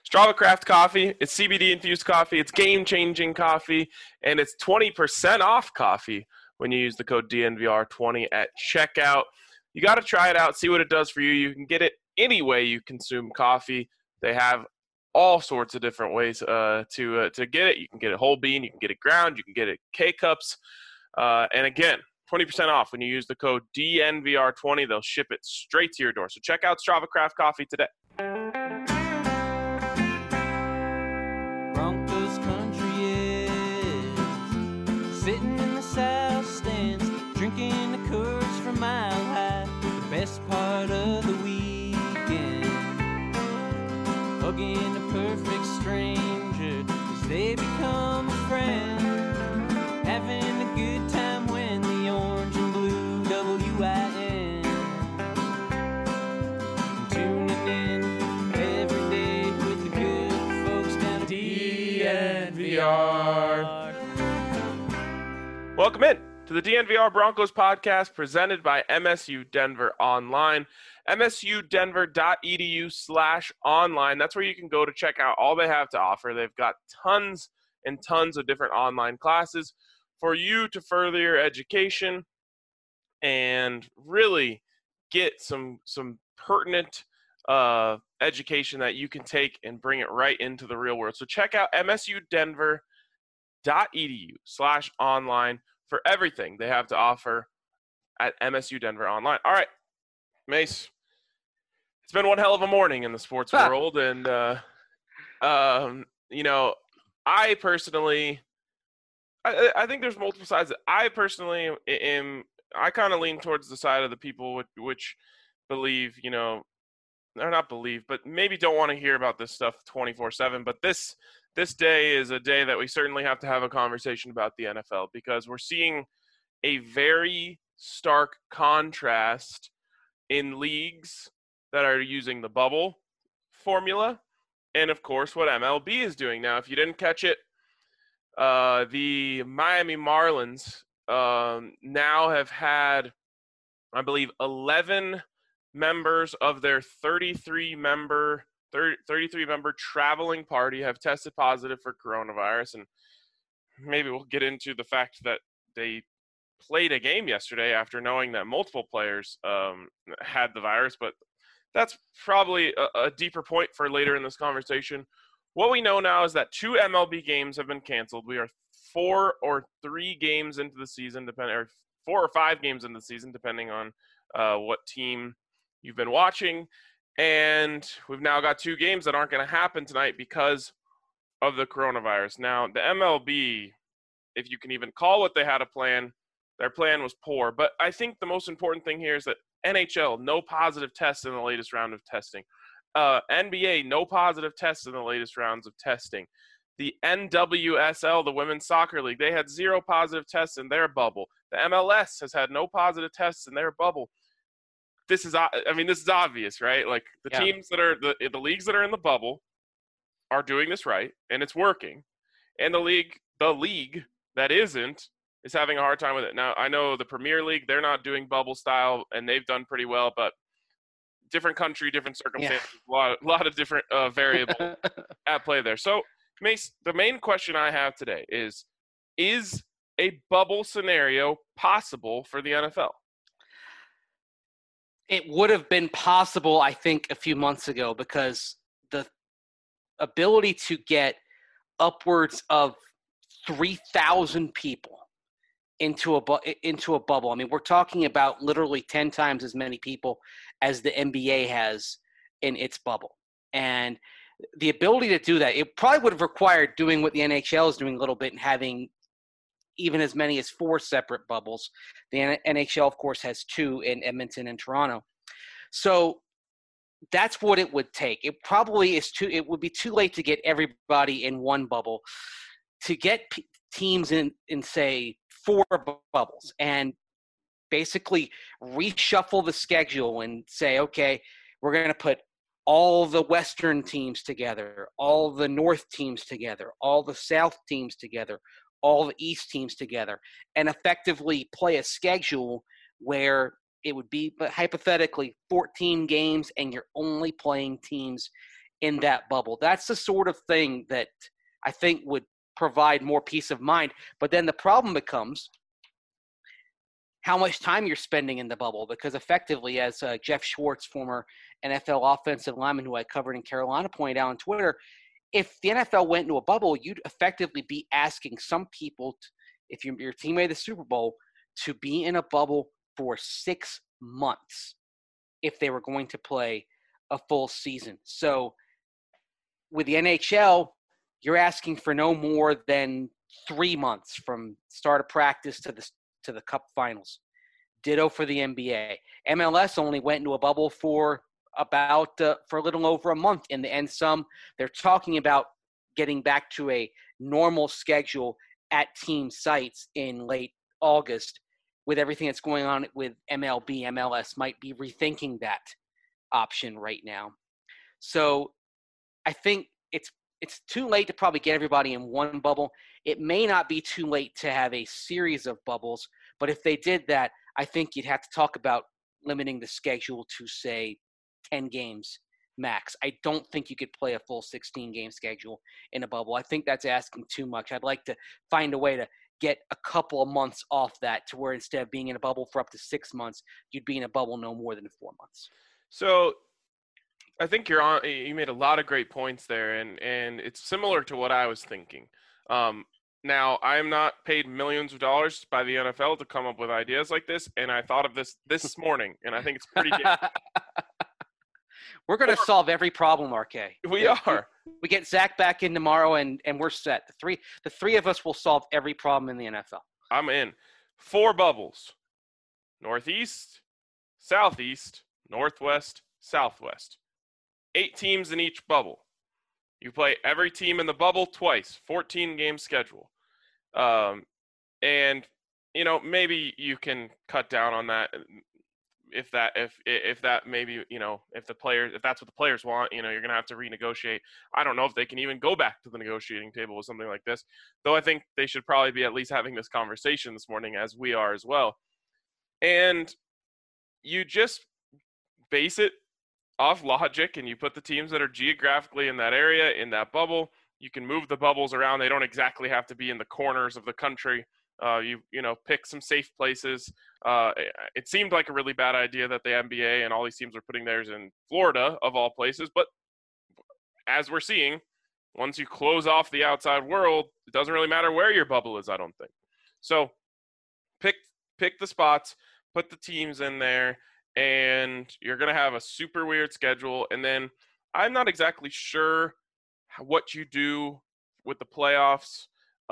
Strava Craft Coffee, it's CBD-infused coffee, it's game-changing coffee, and it's 20% off coffee when you use the code DNVR20 at checkout. You got to try it out, see what it does for you. You can get it any way you consume coffee. They have all sorts of different ways to get it. You can get it whole bean, you can get it ground, you can get it K-Cups. And again, 20% off when you use the code DNVR20. They'll ship it straight to your door. So check out Strava Craft Coffee today. Broncos country is sitting in the south stands, drinking the Coors from Mile High. The best part of the weekend, hugging a perfect stranger as they become a friend, having a good time when the orange and blue WIN, tuning in every day with the good folks down at DNVR. Welcome in to the DNVR Broncos podcast presented by MSU Denver Online. msudenver.edu/online. That's where you can go to check out all they have to offer. They've got tons and tons of different online classes for you to further your education and really get some pertinent education that you can take and bring it right into the real world. So check out msudenver.edu/online for everything they have to offer at MSU Denver Online. All right, Mace, it's been one hell of a morning in the sports world, and I personally, I think there's multiple sides. I personally I kind of lean towards the side of the people which believe, or not believe, but maybe don't want to hear about this stuff 24/7. But this day is a day that we certainly have to have a conversation about the NFL, because we're seeing a very stark contrast in leagues that are using the bubble formula and, of course, what MLB is doing. Now, if you didn't catch it, the Miami Marlins now have had, I believe, 11 members of their 33-member traveling party have tested positive for coronavirus. And maybe we'll get into the fact that they played a game yesterday after knowing that multiple players had the virus, but that's probably a deeper point for later in this conversation. What we know now is that 2 MLB games have been canceled. We are 4 or 3 games into the season, or 4 or 5 games into the season, depending on what team you've been watching. And we've now got 2 games that aren't going to happen tonight because of the coronavirus. Now, the MLB, if you can even call what they had a plan, their plan was poor. But I think the most important thing here is that NHL, no positive tests in the latest round of testing. NBA, no positive tests in the latest rounds of testing. The NWSL, the Women's Soccer League, they had 0 positive tests in their bubble. The MLS has had no positive tests in their bubble. This is obvious, right? Like the teams that are the leagues that are in the bubble are doing this right, and it's working. And the league that isn't is having a hard time with it. Now, I know the Premier League, they're not doing bubble style, and they've done pretty well, but different country, different circumstances, a lot of different variables at play there. So, Mace, the main question I have today is a bubble scenario possible for the NFL? It would have been possible, I think, a few months ago, because the ability to get upwards of 3,000 people into a bubble. I mean, we're talking about literally 10 times as many people as the NBA has in its bubble. And the ability to do that, it probably would have required doing what the NHL is doing a little bit and having even as many as 4 separate bubbles. The NHL, of course, has 2 in Edmonton and Toronto. So that's what it would take. It probably is it would be too late to get everybody in one bubble. To get teams in say 4 bubbles and basically reshuffle the schedule and say, okay, we're going to put all the Western teams together, all the North teams together, all the South teams together, all the East teams together, and effectively play a schedule where it would be hypothetically 14 games and you're only playing teams in that bubble. That's the sort of thing that I think would provide more peace of mind. But then the problem becomes how much time you're spending in the bubble, because effectively, as Jeff Schwartz, former NFL offensive lineman who I covered in Carolina, pointed out on Twitter, if the NFL went into a bubble, you'd effectively be asking some people, if your team made the Super Bowl, to be in a bubble for 6 months if they were going to play a full season. So with the NHL, you're asking for no more than 3 months from start of practice to the Cup Finals. Ditto for the NBA. MLS only went into a bubble for a little over a month in the end. They're talking about getting back to a normal schedule at team sites in late August. With everything that's going on with MLB, MLS might be rethinking that option right now. So I think it's too late to probably get everybody in one bubble. It may not be too late to have a series of bubbles, but if they did that, I think you'd have to talk about limiting the schedule to, say, 10 games max. I don't think you could play a full 16-game schedule in a bubble. I think that's asking too much. I'd like to find a way to get a couple of months off that, to where instead of being in a bubble for up to 6 months, you'd be in a bubble no more than 4 months. So I think you made a lot of great points there, and it's similar to what I was thinking. Now, I am not paid millions of dollars by the NFL to come up with ideas like this, and I thought of this morning, and I think it's pretty good. We're going to solve every problem, RK. We are. We get Zach back in tomorrow, and we're set. The three of us will solve every problem in the NFL. I'm in. 4 bubbles. Northeast, Southeast, Northwest, Southwest. 8 teams in each bubble. You play every team in the bubble twice. 14-game schedule. And maybe you can cut down on that if that maybe, if that's what the players want, you're going to have to renegotiate. I don't know if they can even go back to the negotiating table with something like this, though I think they should probably be at least having this conversation this morning, as we are as well. And you just base it off logic, and you put the teams that are geographically in that area, in that bubble. You can move the bubbles around. They don't exactly have to be in the corners of the country. You pick some safe places. It seemed like a really bad idea that the NBA and all these teams are putting theirs in Florida, of all places. But as we're seeing, once you close off the outside world, it doesn't really matter where your bubble is, I don't think. So pick the spots, put the teams in there, and you're going to have a super weird schedule. And then I'm not exactly sure what you do with the playoffs.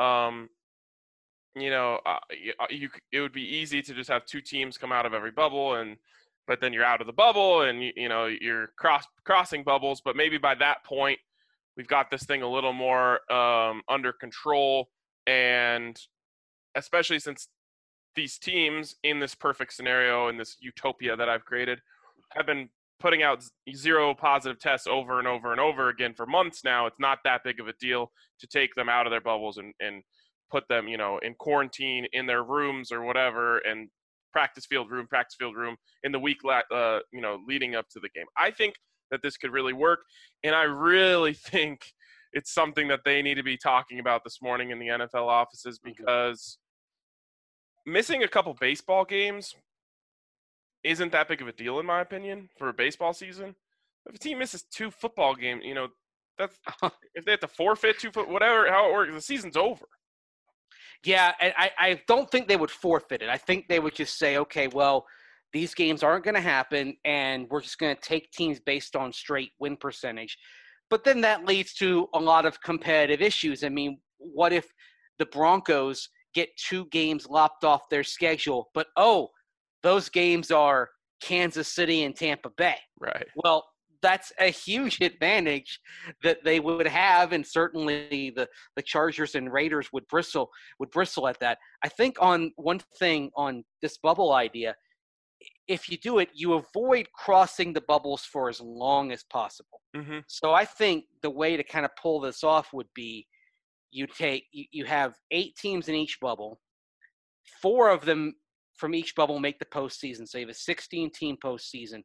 It would be easy to just have 2 teams come out of every bubble, but then you're out of the bubble, and you're crossing bubbles. But maybe by that point, we've got this thing a little more under control, and especially since these teams in this perfect scenario, in this utopia that I've created, have been putting out 0 positive tests over and over and over again for months now. It's not that big of a deal to take them out of their bubbles and put them, in quarantine in their rooms or whatever, and practice field room in the week, leading up to the game. I think that this could really work, and I really think it's something that they need to be talking about this morning in the NFL offices, because missing a couple baseball games isn't that big of a deal, in my opinion, for a baseball season. If a team misses 2 football games, that's if they have to forfeit 2 whatever, how it works, the season's over. Yeah, and I don't think they would forfeit it. I think they would just say, okay, well, these games aren't going to happen, and we're just going to take teams based on straight win percentage. But then that leads to a lot of competitive issues. I mean, what if the Broncos get 2 games lopped off their schedule, but, those games are Kansas City and Tampa Bay? Right. Well, that's a huge advantage that they would have, and certainly the Chargers and Raiders would bristle at that. I think on one thing on this bubble idea, if you do it, you avoid crossing the bubbles for as long as possible. Mm-hmm. So I think the way to kind of pull this off would be you have 8 teams in each bubble, 4 of them from each bubble make the postseason. So you have a 16-team postseason.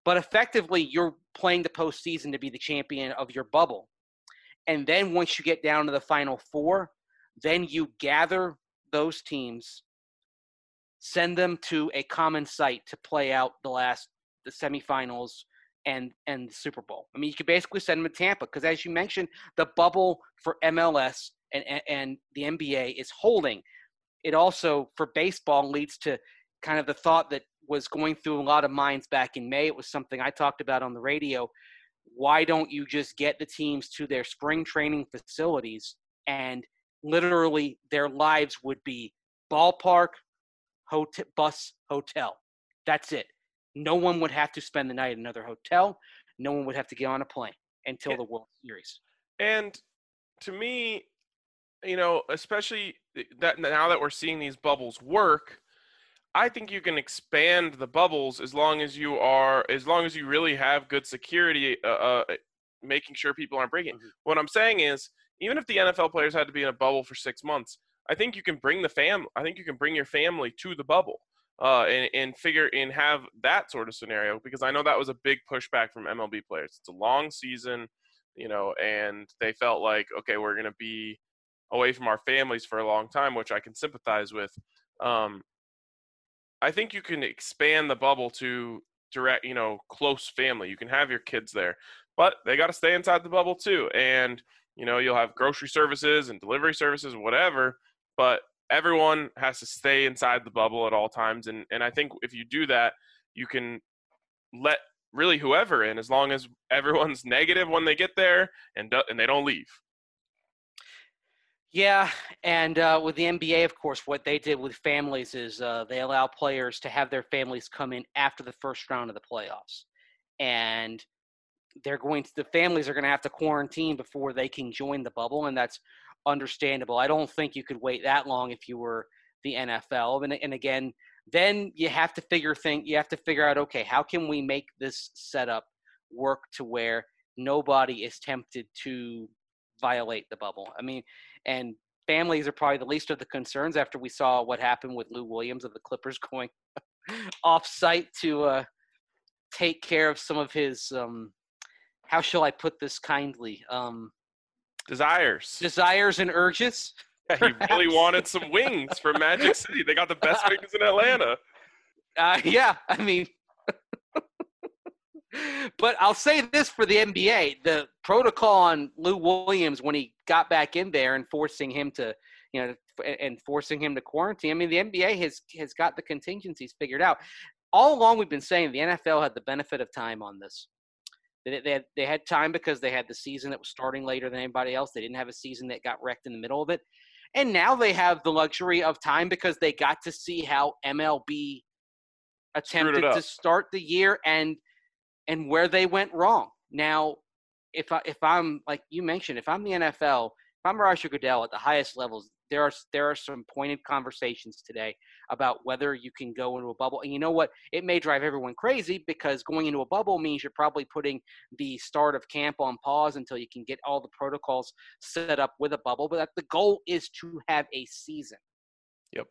But effectively, you're playing the postseason to be the champion of your bubble. And then once you get down to the Final Four, then you gather those teams, send them to a common site to play out the semifinals and the Super Bowl. I mean, you could basically send them to Tampa because, as you mentioned, the bubble for MLS and the NBA is holding. It also, for baseball, leads to kind of the thought that was going through a lot of minds back in May. It was something I talked about on the radio. Why don't you just get the teams to their spring training facilities and literally their lives would be ballpark, bus, hotel. That's it. No one would have to spend the night at another hotel. No one would have to get on a plane until the World Series. And to me, especially that now that we're seeing these bubbles work, I think you can expand the bubbles as long as you really have good security, making sure people aren't breaking. Mm-hmm. What I'm saying is, even if the NFL players had to be in a bubble for 6 months, I think you can bring your family to the bubble, and have that sort of scenario, because I know that was a big pushback from MLB players. It's a long season, and they felt like, okay, we're going to be away from our families for a long time, which I can sympathize with. I think you can expand the bubble to direct, close family. You can have your kids there, but they got to stay inside the bubble too. And, you'll have grocery services and delivery services and whatever, but everyone has to stay inside the bubble at all times. And I think if you do that, you can let really whoever in, as long as everyone's negative when they get there and they don't leave. Yeah, and with the NBA, of course, what they did with families is they allow players to have their families come in after the first round of the playoffs. And the families are going to have to quarantine before they can join the bubble, and that's understandable. I don't think you could wait that long if you were the NFL. And again, then you have to figure out, okay, how can we make this setup work to where nobody is tempted to violate the bubble? I mean, and families are probably the least of the concerns after we saw what happened with Lou Williams of the Clippers going off-site to take care of some of his how shall I put this kindly? Desires and urges. Yeah, he really wanted some wings from Magic City. They got the best wings in Atlanta. Yeah, I mean, but I'll say this for the NBA: the protocol on Lou Williams when he got back in there and forcing him to quarantine. I mean, the NBA has got the contingencies figured out. All along, we've been saying the NFL had the benefit of time on this. They had time because they had the season that was starting later than anybody else. They didn't have a season that got wrecked in the middle of it. And now they have the luxury of time because they got to see how MLB attempted to start the year and where they went wrong. Now, if I'm like you mentioned, if I'm the NFL, if I'm Roger Goodell at the highest levels, there are some pointed conversations today about whether you can go into a bubble. And you know what? It may drive everyone crazy because going into a bubble means you're probably putting the start of camp on pause until you can get all the protocols set up with a bubble. But the goal is to have a season. Yep.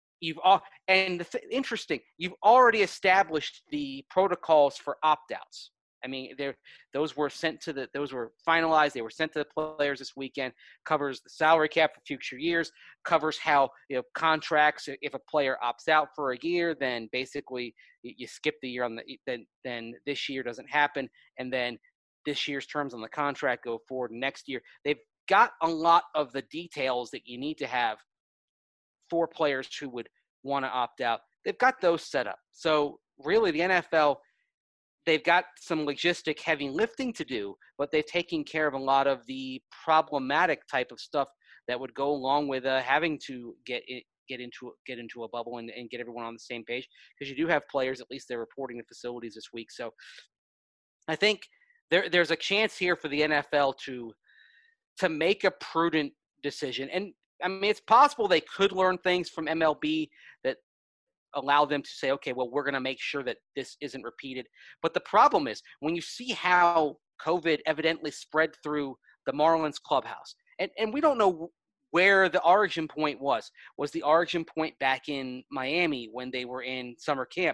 Interesting, you've already established the protocols for opt-outs. I mean, those were finalized. They were sent to the players this weekend. Covers the salary cap for future years. Covers how contracts. If a player opts out for a year, then basically you skip the year then this year doesn't happen, and then this year's terms on the contract go forward next year. They've got a lot of the details that you need to have for players who would want to opt out. They've got those set up. So really, the NFL. They've got some logistic heavy lifting to do, but they've taken care of a lot of the problematic type of stuff that would go along with having to get into a bubble and get everyone on the same page. Because you do have players, at least they're reporting to facilities this week. So I think there's a chance here for the NFL to make a prudent decision. And I mean, it's possible they could learn things from MLB that allow them to say, okay, well, we're going to make sure that this isn't repeated. But the problem is when you see how COVID evidently spread through the Marlins clubhouse, and we don't know where the origin point was. Was the origin point back in Miami when they were in summer camp?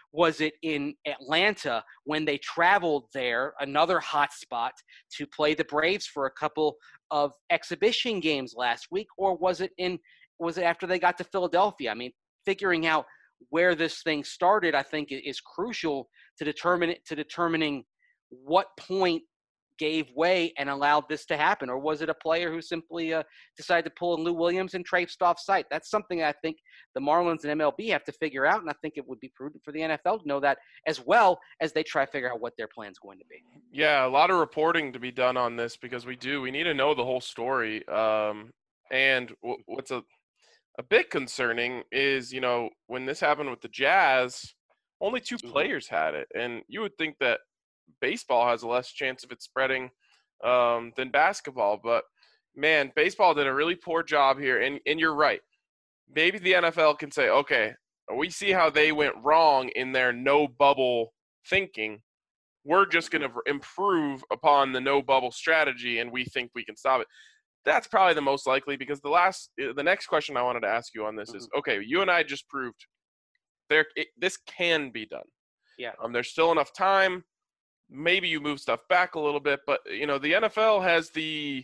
Was it in Atlanta when they traveled there, another hot spot, to play the Braves for a couple of exhibition games last week? Or was it after they got to Philadelphia? I mean, figuring out where this thing started, I think, is crucial to determining what point gave way and allowed this to happen. Or was it a player who simply decided to pull in Lou Williams and traipsed off site? That's something I think the Marlins and MLB have to figure out, and I think it would be prudent for the NFL to know that as well as they try to figure out what their plan's going to be. Yeah, a lot of reporting to be done on this because we need to know the whole story. And what's a bit concerning is, when this happened with the Jazz, only 2 players had it. And you would think that baseball has a less chance of it spreading than basketball. But, man, baseball did a really poor job here. And you're right. Maybe the NFL can say, okay, we see how they went wrong in their no bubble thinking. We're just going to improve upon the no bubble strategy, and we think we can stop it. That's probably the most likely, because the next question I wanted to ask you on this is, okay, you and I just proved this can be done. Yeah. There's still enough time. Maybe you move stuff back a little bit, but the NFL has they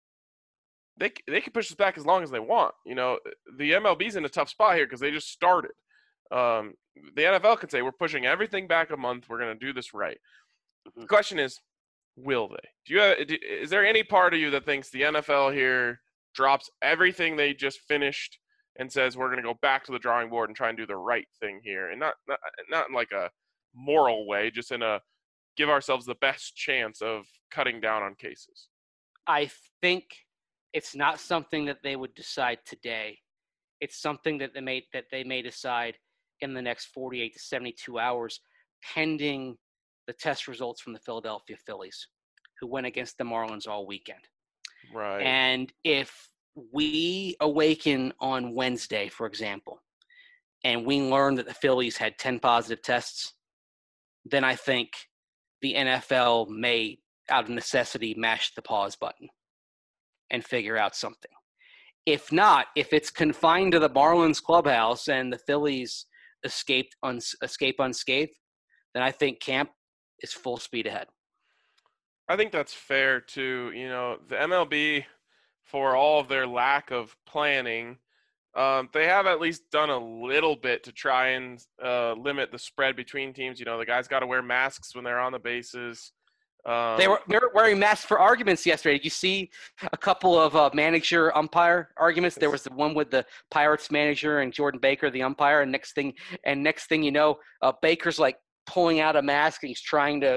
can push this back as long as they want. The MLB's in a tough spot here because they just started. The NFL can say, we're pushing everything back a month. We're going to do this right. The question is, will they? Is there any part of you that thinks the NFL here drops everything they just finished and says, we're going to go back to the drawing board and try and do the right thing here? And not in like a moral way, just in a give ourselves the best chance of cutting down on cases. I think it's not something that they would decide today. It's something that they may decide in the next 48 to 72 hours, pending the test results from the Philadelphia Phillies, who went against the Marlins all weekend. Right. And if we awaken on Wednesday, for example, and we learn that the Phillies had 10 positive tests, then I think the NFL may, out of necessity, mash the pause button and figure out something. If not, if it's confined to the Marlins clubhouse and the Phillies escape unscathed, then I think camp is full speed ahead. I think that's fair too. The MLB, for all of their lack of planning, they have at least done a little bit to try and limit the spread between teams. The guys got to wear masks when they're on the bases. They were wearing masks for arguments yesterday. Did you see a couple of manager-umpire arguments? There was the one with the Pirates manager and Jordan Baker, the umpire, and next thing you know, Baker's like pulling out a mask and he's trying to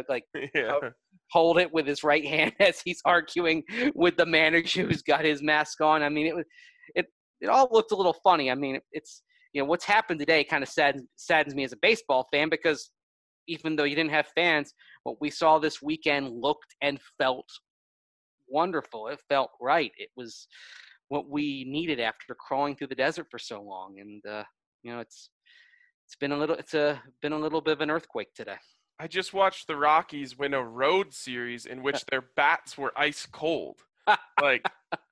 hold it with his right hand as he's arguing with the manager who's got his mask on. I mean, it all looked a little funny. I mean, it's what's happened today kind of saddens me as a baseball fan, because even though you didn't have fans, what we saw this weekend looked and felt wonderful. It felt right. It was what we needed after crawling through the desert for so long. And it's been a little bit of an earthquake today. I just watched the Rockies win a road series in which their bats were ice cold. Like,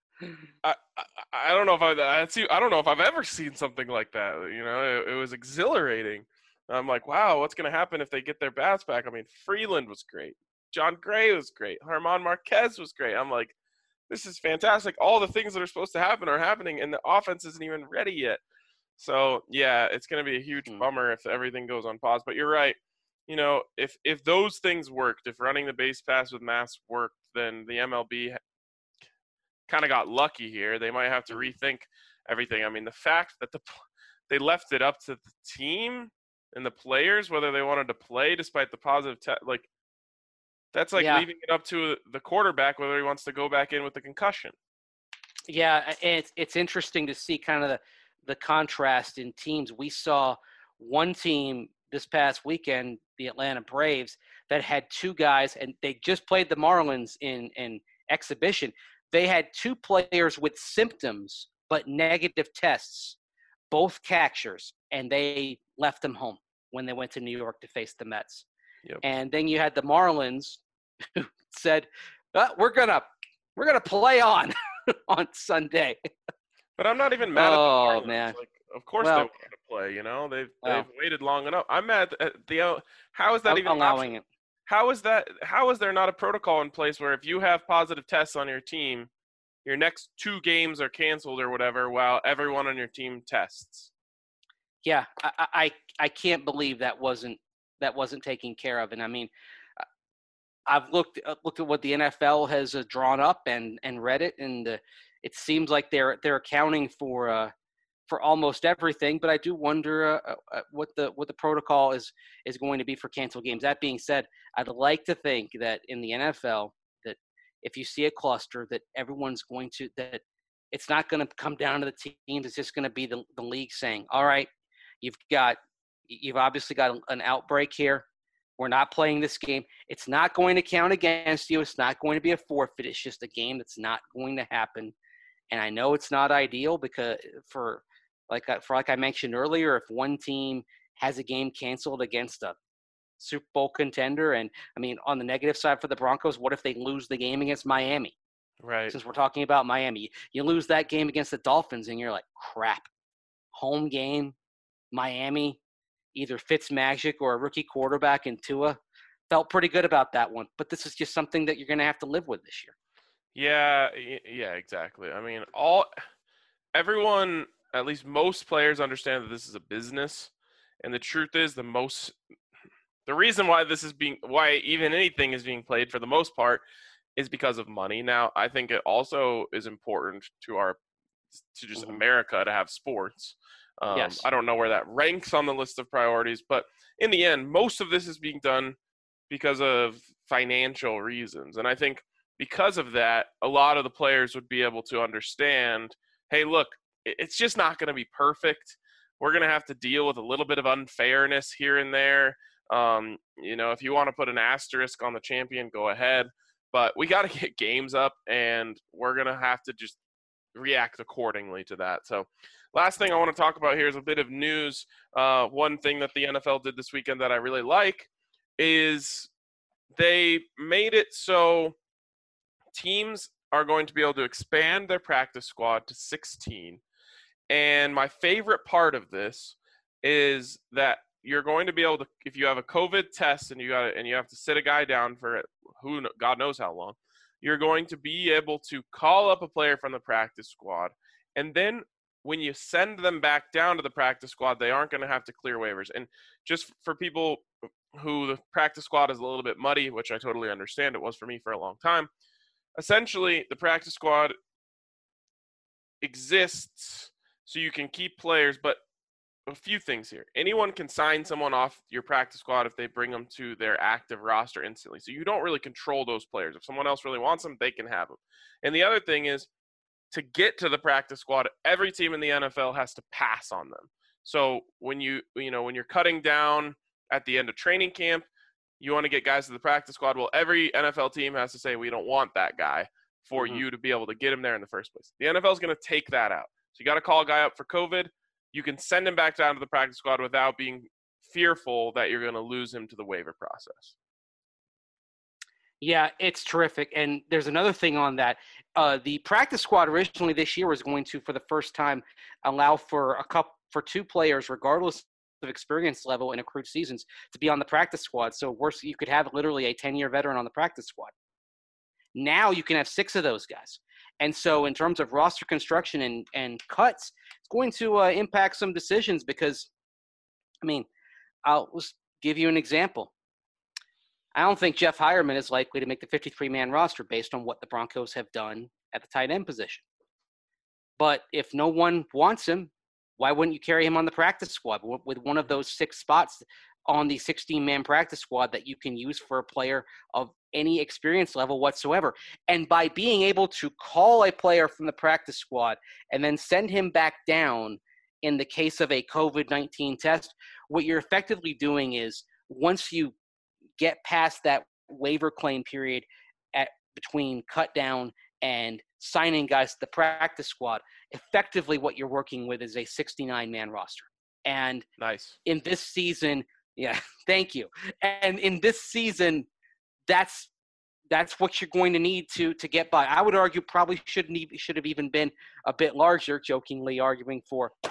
I don't know if I've ever seen something like that. It was exhilarating. I'm like, wow, what's going to happen if they get their bats back? I mean, Freeland was great. John Gray was great. German Marquez was great. I'm like, this is fantastic. All the things that are supposed to happen are happening, and the offense isn't even ready yet. So, yeah, it's going to be a huge bummer if everything goes on pause. But you're right. If those things worked, if running the base pass with masks worked, then the MLB kind of got lucky here. They might have to rethink everything. I mean, the fact that they left it up to the team and the players whether they wanted to play despite the positive test, that's leaving it up to the quarterback whether he wants to go back in with the concussion. Yeah, it's interesting to see kind of the contrast in teams. We saw one team this past weekend, the Atlanta Braves, that had 2 guys, and they just played the Marlins in exhibition. They had 2 players with symptoms but negative tests, both catchers, and they left them home when they went to New York to face the Mets. Yep. And then you had the Marlins who said, we're gonna play on Sunday. But I'm not even mad at the Marlins. Man. Of course they Well, want to play. You know, they've well, waited long enough. I'm mad at the. How is that even an allowing option? it. How is that? How is there not a protocol in place where if you have positive tests on your team, your next 2 games are canceled or whatever, while everyone on your team tests? Yeah, I can't believe that wasn't taken care of. And I mean, I've looked at what the NFL has drawn up and read it, and it seems like they're accounting for almost everything. But I do wonder what the protocol is going to be for canceled games. That being said, I'd like to think that in the NFL, that if you see a cluster, that everyone's going to that it's not going to come down to the teams. It's just going to be the league saying, all right, you've obviously got an outbreak here. We're not playing this game. It's not going to count against you. It's not going to be a forfeit. It's just a game that's not going to happen. And I know it's not ideal because like I mentioned earlier, if one team has a game canceled against a Super Bowl contender, and I mean, on the negative side for the Broncos, what if they lose the game against Miami? Right. Since we're talking about Miami, you lose that game against the Dolphins, and you're like, crap. Home game, Miami. Either Fitzmagic or a rookie quarterback in Tua. Felt pretty good about that one. But this is just something that you're going to have to live with this year. Yeah, exactly. I mean, everyone, at least most players understand that this is a business. And the truth is the reason why why even anything is being played for the most part is because of money. Now, I think it also is important to just America to have sports. Yes. I don't know where that ranks on the list of priorities, but in the end, most of this is being done because of financial reasons. And I think because of that, a lot of the players would be able to understand, hey, look, it's just not going to be perfect. We're going to have to deal with a little bit of unfairness here and there. If you want to put an asterisk on the champion, go ahead. But we got to get games up, and we're going to have to just react accordingly to that. So last thing I want to talk about here is a bit of news. One thing that the NFL did this weekend that I really like is they made it so teams are going to be able to expand their practice squad to 16. And my favorite part of this is that you're going to be able to, if you have a COVID test and you have to sit a guy down for God knows how long, you're going to be able to call up a player from the practice squad. And then when you send them back down to the practice squad, they aren't going to have to clear waivers. And just for people who the practice squad is a little bit muddy, which I totally understand, it was for me for a long time. Essentially, the practice squad exists so you can keep players, but a few things here. Anyone can sign someone off your practice squad if they bring them to their active roster instantly. So you don't really control those players. If someone else really wants them, they can have them. And the other thing is, to get to the practice squad, every team in the NFL has to pass on them. So when when you're cutting down at the end of training camp, you want to get guys to the practice squad. Well, every NFL team has to say, we don't want that guy for you to be able to get him there in the first place. The NFL is going to take that out. So you got to call a guy up for COVID. You can send him back down to the practice squad without being fearful that you're going to lose him to the waiver process. Yeah, it's terrific. And there's another thing on that. The practice squad originally this year was going to, for the first time, allow for 2 players, regardless of experience level in accrued seasons, to be on the practice squad. So worse, you could have literally a 10-year veteran on the practice squad. Now you can have 6 of those guys. And so in terms of roster construction and cuts, it's going to impact some decisions because, I mean, I'll just give you an example. I don't think Jeff Hireman is likely to make the 53-man roster based on what the Broncos have done at the tight end position. But if no one wants him, why wouldn't you carry him on the practice squad with one of those 6 spots on the 16-man practice squad that you can use for a player of any experience level whatsoever? And by being able to call a player from the practice squad and then send him back down in the case of a COVID-19 test, what you're effectively doing is once you get past that waiver claim period between cut down and signing guys to the practice squad, effectively what you're working with is a 69-man roster. And nice. In this season, yeah, thank you. And in this season, that's what you're going to need to get by. I would argue probably should have even been a bit larger, jokingly arguing for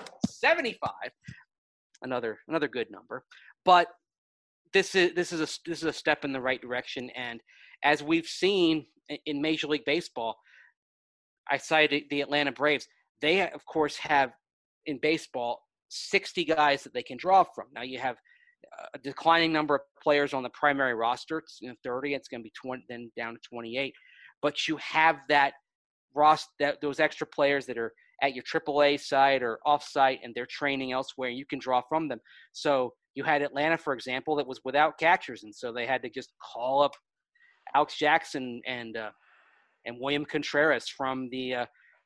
75. Another good number. But this is a step in the right direction. And as we've seen in Major League Baseball, I cited the Atlanta Braves. They, of course, have in baseball 60 guys that they can draw from. Now you have a declining number of players on the primary roster. It's 30. It's going to be 20, then down to 28. But you have that roster, those extra players that are at your AAA side or off site, and they're training elsewhere. You can draw from them. So you had Atlanta, for example, that was without catchers, and so they had to just call up Alex Jackson and William Contreras from the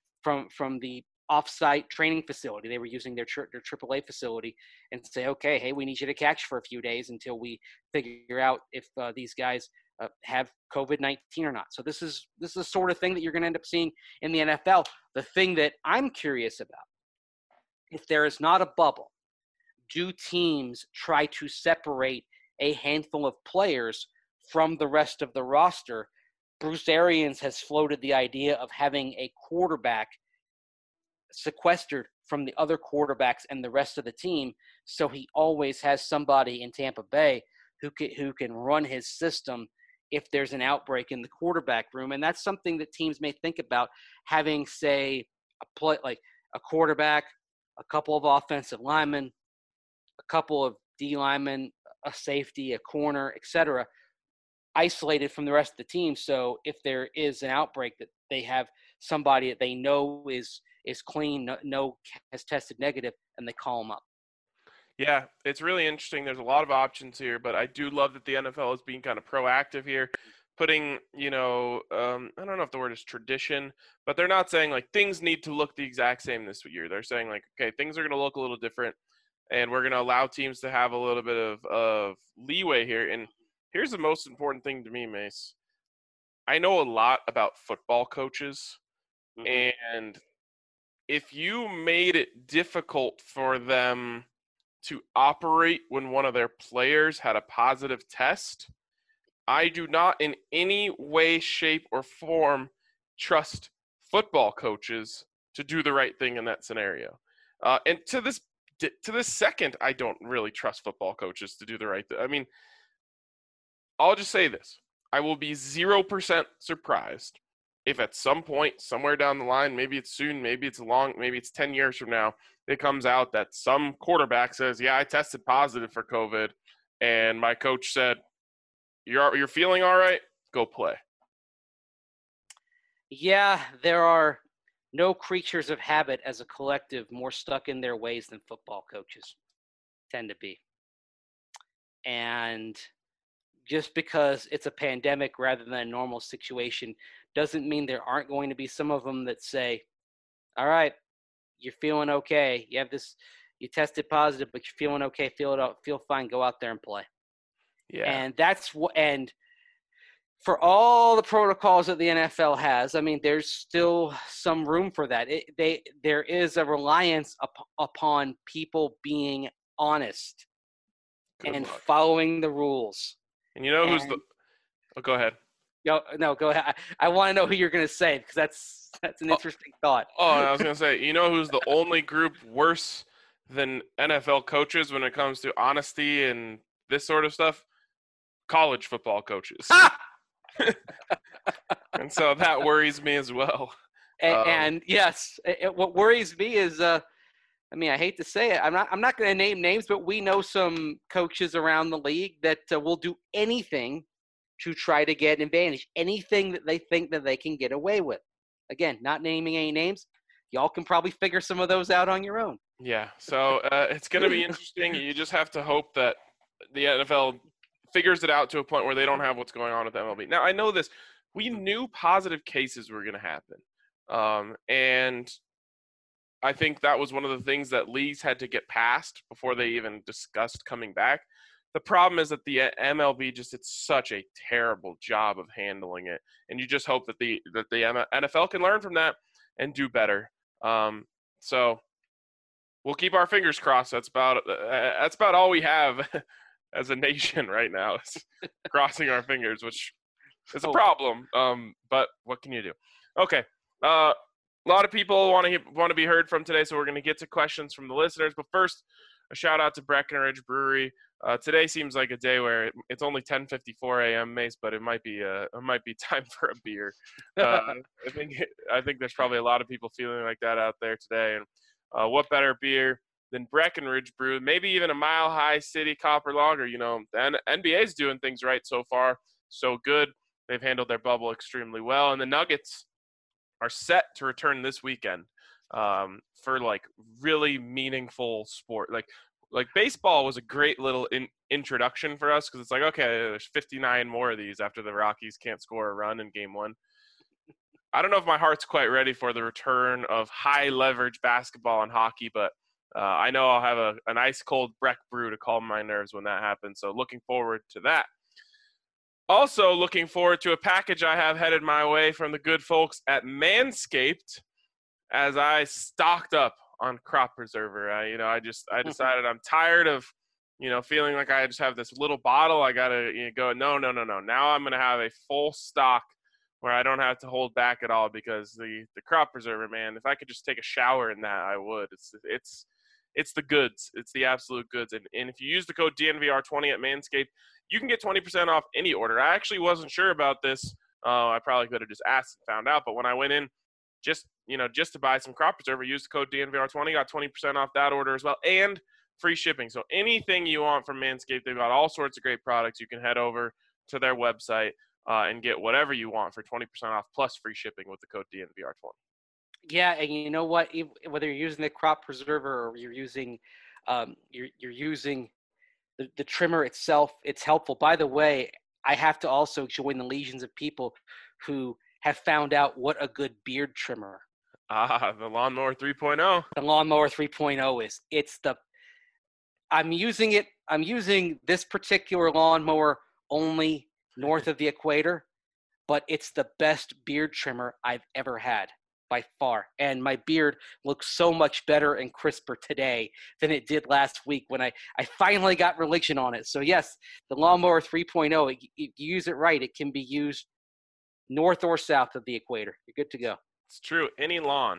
off-site training facility. They were using their AAA facility, and say, okay, hey, we need you to catch for a few days until we figure out if these guys have COVID-19 or not. So this is the sort of thing that you're going to end up seeing in the NFL. The thing that I'm curious about, if there is not a bubble, do teams try to separate a handful of players from the rest of the roster? Bruce Arians has floated the idea of having a quarterback sequestered from the other quarterbacks and the rest of the team, so he always has somebody in Tampa Bay who can run his system if there's an outbreak in the quarterback room. And that's something that teams may think about, having, say, like a quarterback, a couple of offensive linemen, a couple of D linemen, a safety, a corner, etc., isolated from the rest of the team. So if there is an outbreak, that they have somebody that they know is clean, has tested negative, and they call them up. Yeah, it's really interesting. There's a lot of options here, but I do love that the NFL is being kind of proactive here, putting, I don't know if the word is tradition, but they're not saying like things need to look the exact same this year. They're saying like, okay, things are going to look a little different, and we're going to allow teams to have a little bit of leeway here. And here's the most important thing to me, Mace. I know a lot about football coaches, and if you made it difficult for them to operate when one of their players had a positive test, I do not in any way, shape, or form trust football coaches to do the right thing in that scenario. And to this second, I don't really trust football coaches to do the right thing. I mean, I'll just say this. I will be 0% surprised if at some point, somewhere down the line, maybe it's soon, maybe it's long, maybe it's 10 years from now, it comes out that some quarterback says, yeah, I tested positive for COVID, and my coach said, you're feeling all right? Go play. Yeah, there are no creatures of habit as a collective more stuck in their ways than football coaches tend to be. And just because it's a pandemic rather than a normal situation doesn't mean there aren't going to be some of them that say, all right, you're feeling okay. You tested positive, but you're feeling okay. Feel fine. Go out there and play. Yeah. And and for all the protocols that the NFL has, I mean, there's still some room for that. There is a reliance upon people being honest and following the rules. And you know who's go ahead. No, go ahead. I want to know who you're going to say, because that's an interesting thought. Oh, I was going to say, you know who's the only group worse than NFL coaches when it comes to honesty and this sort of stuff? College football coaches. And so that worries me as well. And yes, what worries me is, I hate to say it, I'm not going to name names, but we know some coaches around the league that will do anything to try to get an advantage, anything that they think that they can get away with. Again, not naming any names. Y'all can probably figure some of those out on your own. Yeah, so it's going to be interesting. You just have to hope that the NFL figures it out to a point where they don't have what's going on with MLB. Now, I know this. We knew positive cases were going to happen. And I think that was one of the things that leagues had to get past before they even discussed coming back. The problem is that the MLB just did such a terrible job of handling it, and you just hope that the NFL can learn from that and do better. So we'll keep our fingers crossed. That's about all we have as a nation right now, is crossing our fingers, which is a problem. But what can you do? Okay. A lot of people want to be heard from today, so we're going to get to questions from the listeners. But first, a shout out to Breckenridge Brewery. Today seems like a day where it's only 10:54 a.m. Mace, but it might be time for a beer. I think there's probably a lot of people feeling like that out there today. And what better beer than Breckenridge Brew? Maybe even a Mile High City Copper Lager. You know, the NBA's doing things right so far, so good. They've handled their bubble extremely well, and the Nuggets are set to return this weekend for like really meaningful sport. Like baseball was a great little introduction for us because it's like, okay, there's 59 more of these after the Rockies can't score a run in game one. I don't know if my heart's quite ready for the return of high leverage basketball and hockey, but I know I'll have an ice cold Breck brew to calm my nerves when that happens. So looking forward to that. Also looking forward to a package I have headed my way from the good folks at Manscaped as I stocked up on crop preserver. I decided I'm tired of, feeling like I just have this little bottle. I got to go, no. Now I'm going to have a full stock where I don't have to hold back at all because the crop preserver, man, if I could just take a shower in that, I would. It's the goods. It's the absolute goods. And if you use the code DNVR20 at Manscaped, you can get 20% off any order. I actually wasn't sure about this. I probably could have just asked and found out. But when I went in just to buy some crop preserver, use the code DNVR20, got 20% off that order as well, and free shipping. So anything you want from Manscaped, they've got all sorts of great products. You can head over to their website and get whatever you want for 20% off plus free shipping with the code DNVR20. Yeah, and you know what? Whether you're using the crop preserver or you're using you're using the trimmer itself, it's helpful. By the way, I have to also join the legions of people who have found out what a good beard trimmer. The Lawnmower 3.0. The Lawnmower 3.0 is. I'm using this particular lawnmower only north of the equator, but it's the best beard trimmer I've ever had by far. And my beard looks so much better and crisper today than it did last week when I finally got religion on it. So yes, the Lawnmower 3.0, if you use it right, it can be used north or south of the equator. You're good to go. It's true. Any lawn,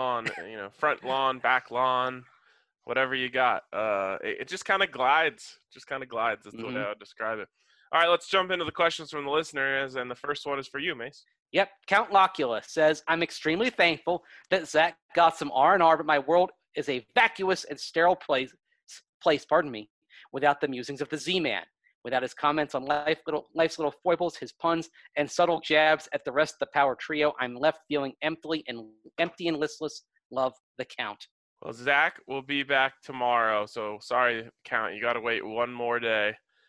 front lawn, back lawn, whatever you got. It just kind of glides. That's the way I would describe it. All right, let's jump into the questions from the listeners. And the first one is for you, Mace. Yep. Count Locula says, I'm extremely thankful that Zach got some R&R, but my world is a vacuous and sterile place, without the musings of the Z-Man. Without his comments on life's little foibles, his puns, and subtle jabs at the rest of the power trio, I'm left feeling empty and listless. Love the Count. Well, Zach will be back tomorrow, so sorry, Count. You got to wait one more day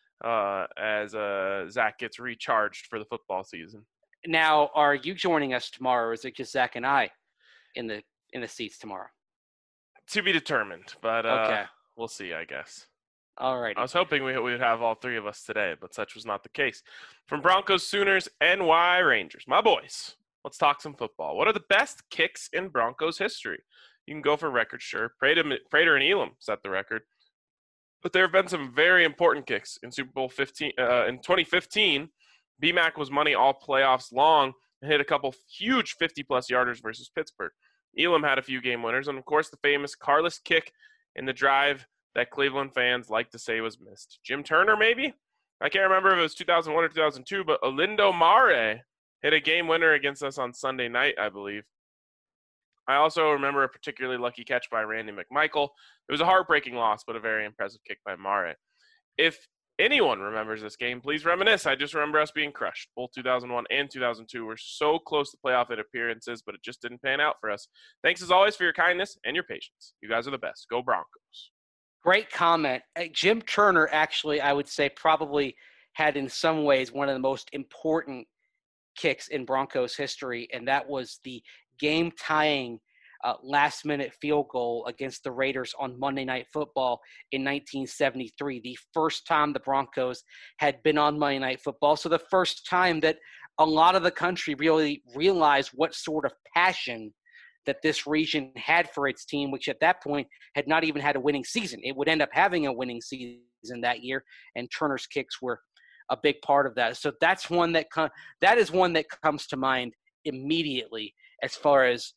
as Zach gets recharged for the football season. Now, are you joining us tomorrow, or is it just Zach and I in the seats tomorrow? To be determined, but okay. We'll see, I guess. All right. I was hoping we would have all three of us today, but such was not the case. From Broncos, Sooners, NY Rangers, my boys, let's talk some football. What are the best kicks in Broncos history? You can go for record, sure. Prater and Elam set the record. But there have been some very important kicks in Super Bowl 15. In 2015, BMAC was money all playoffs long and hit a couple huge 50-plus yarders versus Pittsburgh. Elam had a few game winners, and, of course, the famous Carless kick in the drive that Cleveland fans like to say was missed. Jim Turner, maybe? I can't remember if it was 2001 or 2002, but Olindo Mare hit a game winner against us on Sunday night, I believe. I also remember a particularly lucky catch by Randy McMichael. It was a heartbreaking loss, but a very impressive kick by Mare. If anyone remembers this game, please reminisce. I just remember us being crushed. Both 2001 and 2002 were so close to playoff appearances, but it just didn't pan out for us. Thanks as always for your kindness and your patience. You guys are the best. Go Broncos. Great comment. Jim Turner, actually, I would say probably had in some ways one of the most important kicks in Broncos history, and that was the game-tying last-minute field goal against the Raiders on Monday Night Football in 1973, the first time the Broncos had been on Monday Night Football, so the first time that a lot of the country really realized what sort of passion that this region had for its team, which at that point had not even had a winning season. It would end up having a winning season that year, and Turner's kicks were a big part of that. So that's one that is one that comes to mind immediately as far as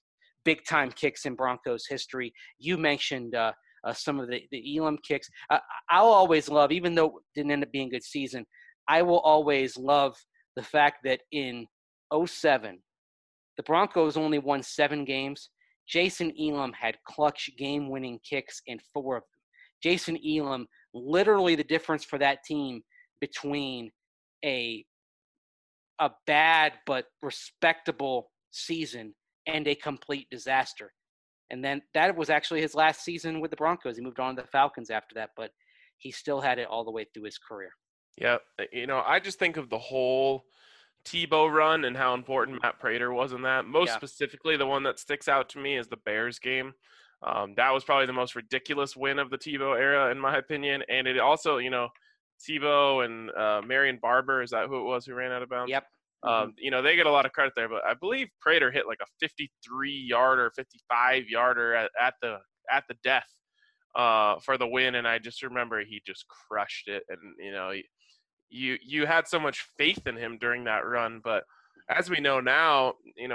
big-time kicks in Broncos history. You mentioned some of the Elam kicks. I'll always love, even though it didn't end up being a good season, I will always love the fact that in 2007, the Broncos only won 7 games. Jason Elam had clutch game-winning kicks in 4 of them. Jason Elam, literally the difference for that team between a bad but respectable season and a complete disaster. And then that was actually his last season with the Broncos. He moved on to the Falcons after that, but he still had it all the way through his career. Yeah, I just think of the whole Tebow run and how important Matt Prater was in that. Most specifically, the one that sticks out to me is the Bears game. That was probably the most ridiculous win of the Tebow era, in my opinion. And it also, Tebow and Marion Barber, is that who it was who ran out of bounds? Yep. They get a lot of credit there, but I believe Prater hit like a 53-yarder, 55-yarder at the death for the win, and I just remember he just crushed it. And you had so much faith in him during that run, but as we know now,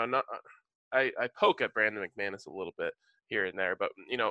I poke at Brandon McManus a little bit here and there, but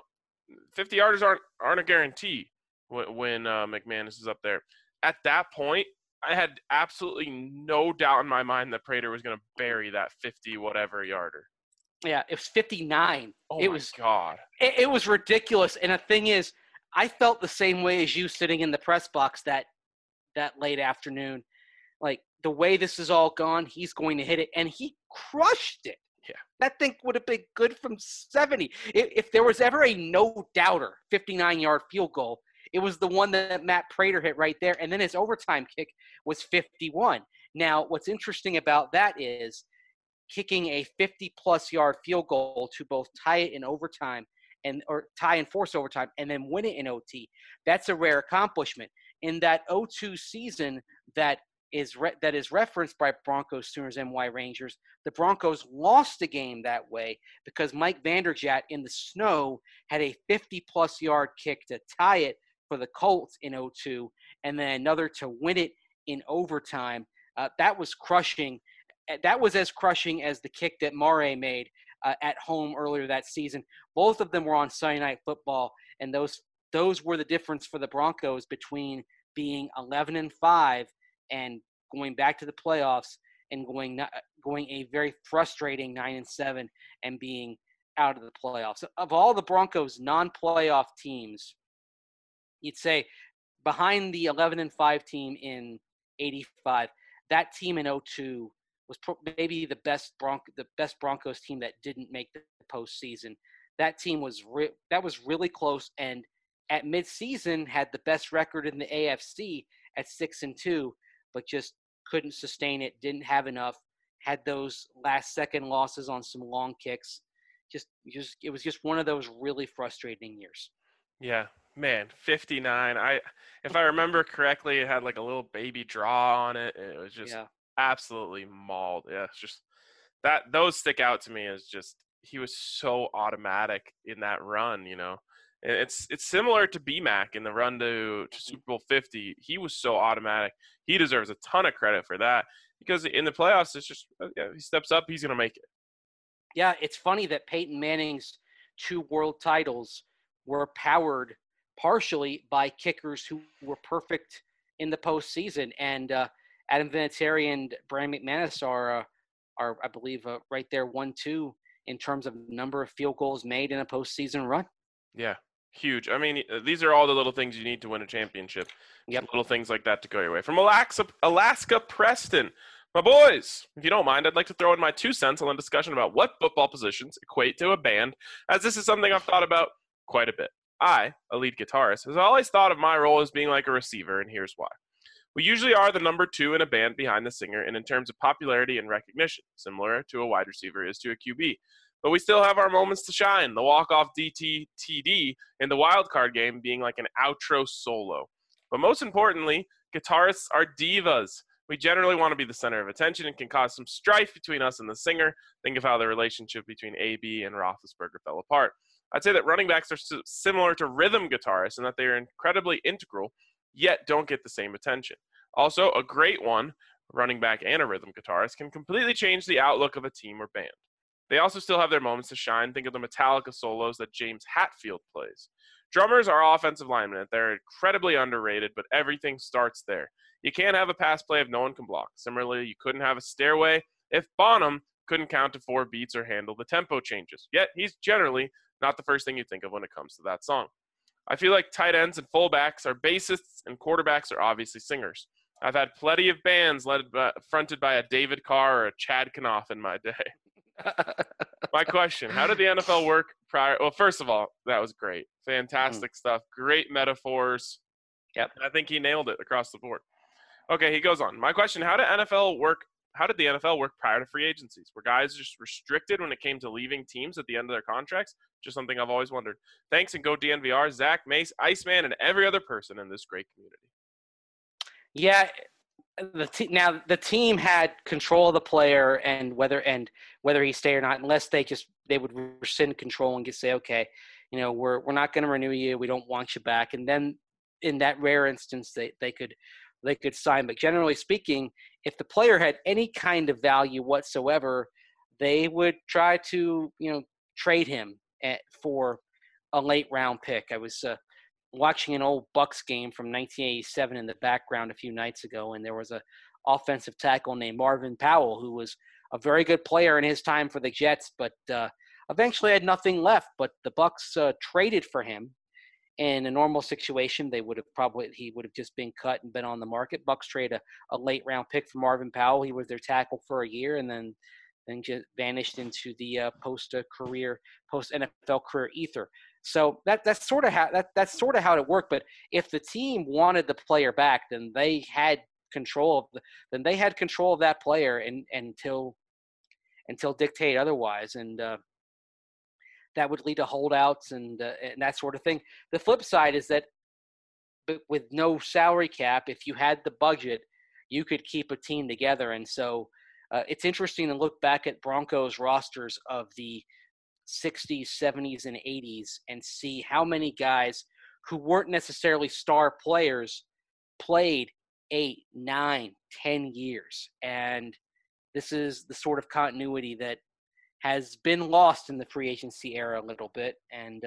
50 yarders aren't a guarantee when McManus is up there. At that point, I had absolutely no doubt in my mind that Prater was going to bury that 50 whatever yarder. Yeah, it was 59. Oh it my was God. It was ridiculous. And the thing is, I felt the same way as you sitting in the press box that late afternoon. Like, the way this is all gone, he's going to hit it, and he crushed it. Yeah. That thing would have been good from 70. If there was ever a no-doubter 59-yard field goal, it was the one that Matt Prater hit right there, and then his overtime kick was 51. Now, what's interesting about that is kicking a 50-plus yard field goal to both tie it in overtime or tie and force overtime and then win it in OT. That's a rare accomplishment. In that 02 season that is referenced by Broncos, Sooners, NY Rangers, the Broncos lost the game that way because Mike Vanderjagt in the snow had a 50-plus yard kick to tie it for the Colts in 02, and then another to win it in overtime. That was crushing. That was as crushing as the kick that Murray made at home earlier that season. Both of them were on Sunday Night Football, and those were the difference for the Broncos between being 11-5 and going back to the playoffs and going a very frustrating 9-7 and being out of the playoffs. Of all the Broncos non-playoff teams, you'd say behind the 11-5 team in 85, that team in 02 was maybe the best Broncos team that didn't make the postseason. That team was really close, and at midseason had the best record in the AFC at 6-2, but just couldn't sustain it. Didn't have enough. Had those last-second losses on some long kicks. It was just one of those really frustrating years. Yeah, man, 59. If I remember correctly, it had like a little baby draw on it. It was just absolutely mauled. Yeah, it's just those stick out to me as just he was so automatic in that run. It's similar to BMAC in the run to Super Bowl 50. He was so automatic. He deserves a ton of credit for that because in the playoffs, it's just he steps up, he's gonna make it. Yeah, it's funny that Peyton Manning's 2 world titles were powered partially by kickers who were perfect in the postseason. And Adam Vinatieri and Brandon McManus are I believe, right there 1-2 in terms of number of field goals made in a postseason run. Yeah, huge. I mean, these are all the little things you need to win a championship. Yep. Little things like that to go your way. From Alaska Preston. My boys, if you don't mind, I'd like to throw in my 2 cents on the discussion about what football positions equate to a band, as this is something I've thought about quite a bit. I, a lead guitarist, has always thought of my role as being like a receiver, and here's why. We usually are the number 2 in a band behind the singer, and in terms of popularity and recognition, similar to a wide receiver is to a QB. But we still have our moments to shine, the walk-off DTTD in the wild card game being like an outro solo. But most importantly, guitarists are divas. We generally want to be the center of attention and can cause some strife between us and the singer. Think of how the relationship between AB and Roethlisberger fell apart. I'd say that running backs are similar to rhythm guitarists in that they are incredibly integral, yet don't get the same attention. Also, a great one, running back and a rhythm guitarist, can completely change the outlook of a team or band. They also still have their moments to shine. Think of the Metallica solos that James Hetfield plays. Drummers are offensive linemen. They're incredibly underrated, but everything starts there. You can't have a pass play if no one can block. Similarly, you couldn't have a stairway if Bonham couldn't count to 4 beats or handle the tempo changes. Yet, he's generally not the first thing you think of when it comes to that song. I feel like tight ends and fullbacks are bassists and quarterbacks are obviously singers. I've had plenty of bands fronted by a David Carr or a Chad Knopf in my day. My question, how did the NFL work prior? Well, first of all, that was great. Fantastic stuff. Great metaphors. Yep. I think he nailed it across the board. Okay, he goes on. My question, how did the NFL work prior to free agencies? Were guys just restricted when it came to leaving teams at the end of their contracts? Just something I've always wondered. Thanks, and go DNVR, Zach, Mace, Iceman, and every other person in this great community. Yeah, now the team had control of the player and whether he stay or not, unless they would rescind control and just say, okay, we're not going to renew you. We don't want you back. And then in that rare instance, they could sign. But generally speaking, if the player had any kind of value whatsoever, they would try to trade him for a late round pick. I was watching an old Bucks game from 1987 in the background a few nights ago, and there was a offensive tackle named Marvin Powell who was a very good player in his time for the Jets, but eventually had nothing left. But the Bucks traded for him. In a normal situation, he would have just been cut and been on the market. Bucks trade a late round pick for Marvin Powell. He was their tackle for a year, and then just vanished into the post NFL career ether. So that's sort of how it worked. But if the team wanted the player back, then they had control of that player until dictated otherwise, and that would lead to holdouts and that sort of thing. The flip side is that with no salary cap, if you had the budget, you could keep a team together. And so it's interesting to look back at Broncos rosters of the 60s, 70s, and 80s and see how many guys who weren't necessarily star players played 8, 9, 10 years. And this is the sort of continuity that has been lost in the free agency era a little bit. And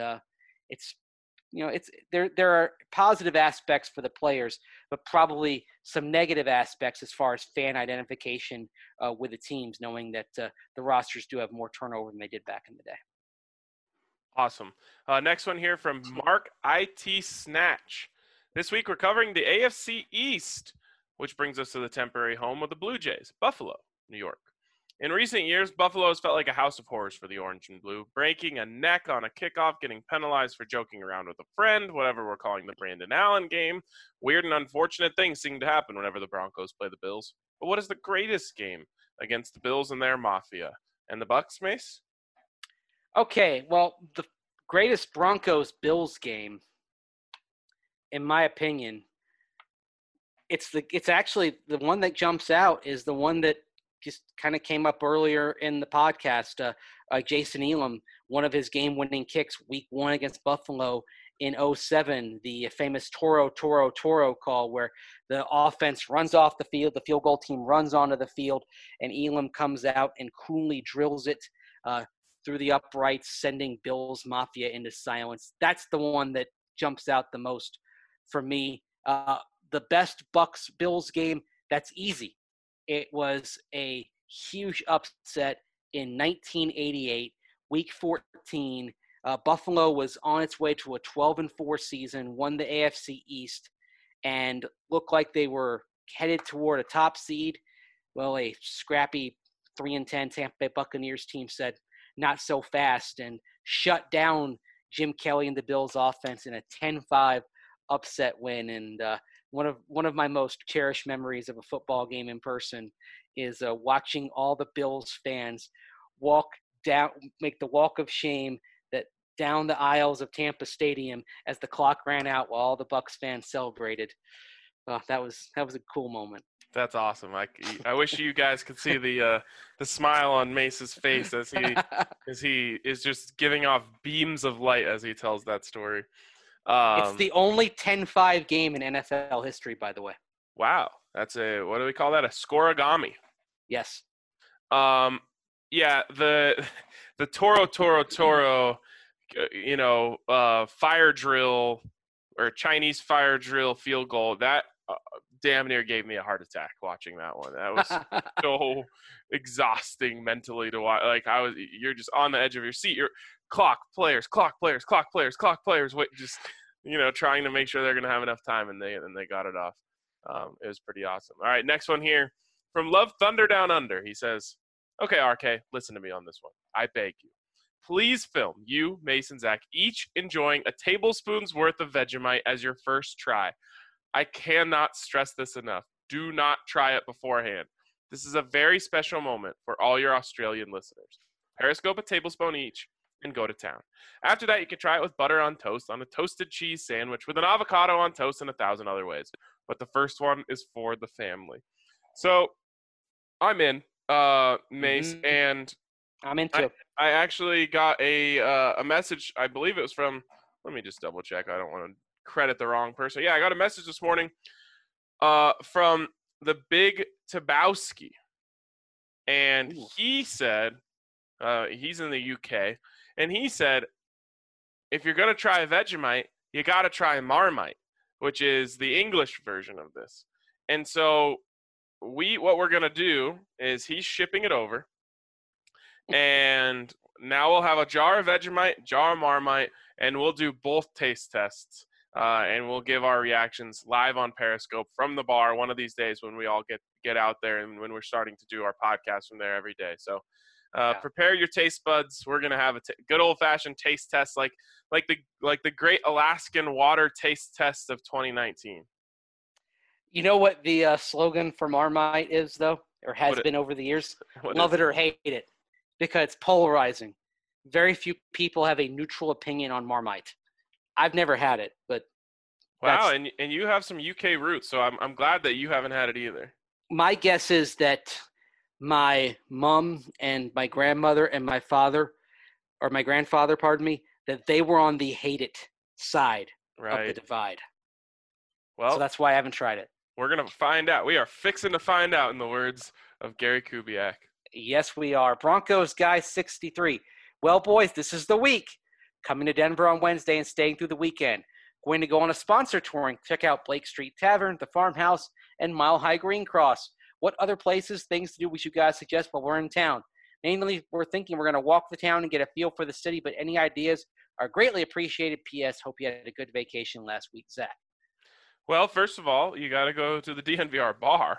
there are positive aspects for the players, but probably some negative aspects as far as fan identification with the teams, knowing that the rosters do have more turnover than they did back in the day. Awesome. Next one here from Mark IT Snatch. This week we're covering the AFC East, which brings us to the temporary home of the Blue Jays, Buffalo, New York. In recent years, Buffalo has felt like a house of horrors for the orange and blue, breaking a neck on a kickoff, getting penalized for joking around with a friend, whatever we're calling the Brandon Allen game. Weird and unfortunate things seem to happen whenever the Broncos play the Bills. But what is the greatest game against the Bills and their mafia? And the Bucks, Mace? Okay, well, the greatest Broncos-Bills game, in my opinion, it's actually the one that jumps out is the one that just kind of came up earlier in the podcast. Jason Elam, one of his game-winning kicks week 1 against Buffalo in 2007, the famous Toro call where the offense runs off the field, the field goal team runs onto the field, and Elam comes out and coolly drills it through the uprights, sending Bills Mafia into silence. That's the one that jumps out the most for me. The best Bucks-Bills game, that's easy. It was a huge upset in 1988, Week 14. Buffalo was on its way to a 12-4 season, won the AFC East, and looked like they were headed toward a top seed. Well, a scrappy 3-10 Tampa Bay Buccaneers team said, not so fast, and shut down Jim Kelly and the Bills offense in a 10-5 upset win. And one of my most cherished memories of a football game in person is watching all the Bills fans make the walk of shame down the aisles of Tampa Stadium as the clock ran out while all the Bucs fans celebrated. That was a cool moment. That's awesome. I wish you guys could see the smile on Mace's face as he is just giving off beams of light as he tells that story. It's the only 10-5 game in NFL history, by the way. Wow. That's what do we call that? A scoregami. Yes. Yeah, the Toro, fire drill or Chinese fire drill field goal, that damn near gave me a heart attack watching that one. That was so exhausting mentally to watch. Like you're just on the edge of your seat. You're clock players, wait, just trying to make sure they're gonna have enough time, and they got it off. It was pretty awesome. All right, next one here from Love Thunder Down Under. He says, "Okay, RK, listen to me on this one. I beg you. Please film you, Mason, Zach, each enjoying a tablespoon's worth of Vegemite as your first try. I cannot stress this enough. Do not try it beforehand. This is a very special moment for all your Australian listeners. Periscope a tablespoon each and go to town. After that, you can try it with butter on toast, on a toasted cheese sandwich, with an avocado on toast, and 1,000 other ways. But the first one is for the family." So I'm in, Mace, and I'm into it. I actually got a message. I believe it was from. Let me just double check. I don't want to credit the wrong person. Yeah, I got a message this morning from the Big Tabowski, and he said he's in the UK, and he said if you're gonna try Vegemite, you gotta try Marmite, which is the English version of this. And so what we're gonna do is he's shipping it over. And now we'll have a jar of Vegemite, jar of Marmite, and we'll do both taste tests. And we'll give our reactions live on Periscope from the bar one of these days when we all get out there and when we're starting to do our podcast from there every day. So prepare your taste buds. We're going to have a good old-fashioned taste test like the Great Alaskan Water Taste Test of 2019. You know what the slogan for Marmite is, though, or has been over the years? Love it or hate it. Because it's polarizing. Very few people have a neutral opinion on Marmite. I've never had it, but wow, and you have some UK roots, so I'm glad that you haven't had it either. My guess is that my mom and my grandmother and my father, or my grandfather, pardon me, that they were on the hate it side of the divide. Well, so that's why I haven't tried it. We're gonna find out. We are fixing to find out, in the words of Gary Kubiak. Yes, we are. Broncos guy 63. Well, boys, this is the week. Coming to Denver on Wednesday and staying through the weekend. Going to go on a sponsor touring. Check out Blake Street Tavern, the Farmhouse, and Mile High Green Cross. What other places, things to do we should guys suggest while we're in town? Mainly, we're thinking we're going to walk the town and get a feel for the city, but any ideas are greatly appreciated. P.S. Hope you had a good vacation last week, Zach. Well, first of all, you got to go to the DNVR bar.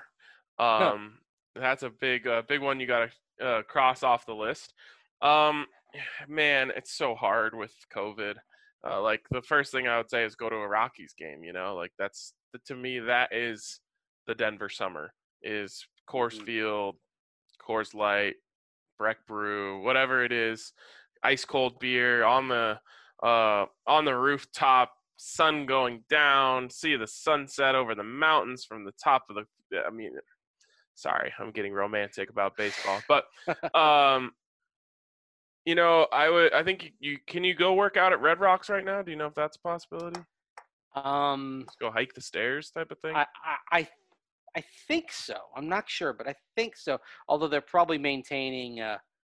That's a big one you got to cross off the list. Man, it's so hard with COVID. Like the first thing I would say is go to a Rockies game. Like that's to me that is the Denver summer is Coors Field, Coors Light, Breck Brew, whatever it is, ice cold beer on the rooftop, sun going down, see the sunset over the mountains from the top of the. I mean. Sorry, I'm getting romantic about baseball, but I think can you go work out at Red Rocks right now? Do you know if that's a possibility? Let's go hike the stairs type of thing. I think so. I'm not sure, but I think so. Although they're probably maintaining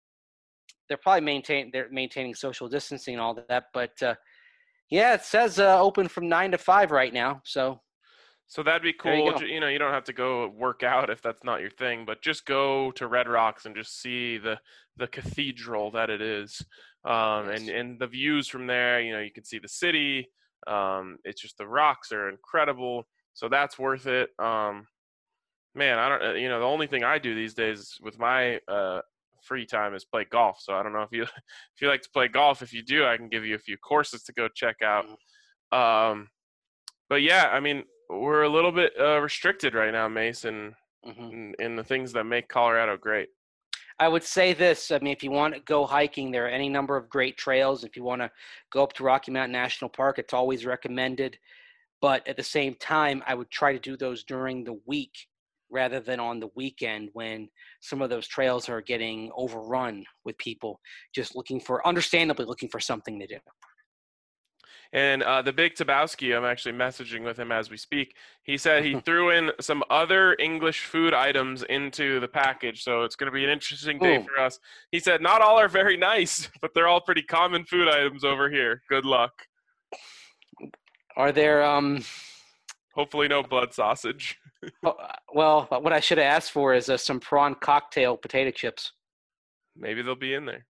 social distancing and all that. But yeah, it says open from 9 to 5 right now. So that'd be cool. You don't have to go work out if that's not your thing, but just go to Red Rocks and just see the cathedral that it is. And the views from there, you can see the city. It's just the rocks are incredible. So that's worth it. Man, I don't, the only thing I do these days with my free time is play golf. So I don't know if you like to play golf. If you do, I can give you a few courses to go check out. But yeah, I mean, we're a little bit restricted right now, Mason, in the things that make Colorado great. I would say this. I mean, if you want to go hiking, there are any number of great trails. If you want to go up to Rocky Mountain National Park, it's always recommended. But at the same time, I would try to do those during the week rather than on the weekend when some of those trails are getting overrun with people just understandably looking for something to do. And the Big Tabowski, I'm actually messaging with him as we speak. He said he threw in some other English food items into the package, so it's going to be an interesting day for us. He said not all are very nice, but they're all pretty common food items over here. Good luck. Are there hopefully no blood sausage? Well, what I should have asked for is some prawn cocktail potato chips. Maybe they'll be in there.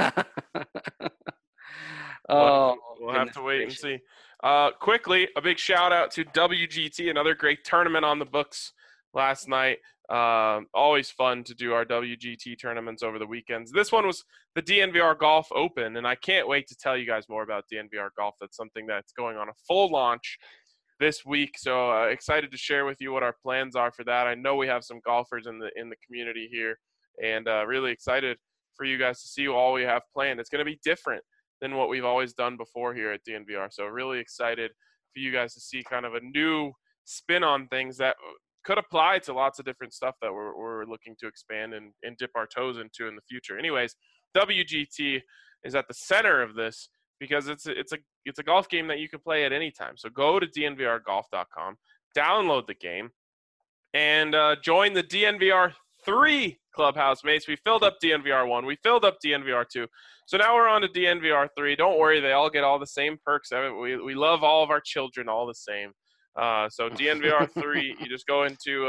We'll have to wait and see. Quickly, a big shout out to WGT, another great tournament on the books last night. Always fun to do our WGT tournaments over the weekends. This one was the DNVR Golf Open, and I can't wait to tell you guys more about DNVR Golf. That's something that's going on a full launch this week, so excited to share with you what our plans are for that. I know we have some golfers in the community here, and really excited for you guys to see all we have planned. It's going to be different than what we've always done before here at DNVR. So really excited for you guys to see kind of a new spin on things that could apply to lots of different stuff that we're looking to expand and dip our toes into in the future. Anyways, WGT is at the center of this because it's a golf game that you can play at any time. So go to dnvrgolf.com, download the game, and join the DNVR 3 clubhouse mates. We filled up DNVR 1. We filled up DNVR 2. So now we're on to DNVR 3. Don't worry, they all get all the same perks. We love all of our children all the same. So DNVR 3, you just go into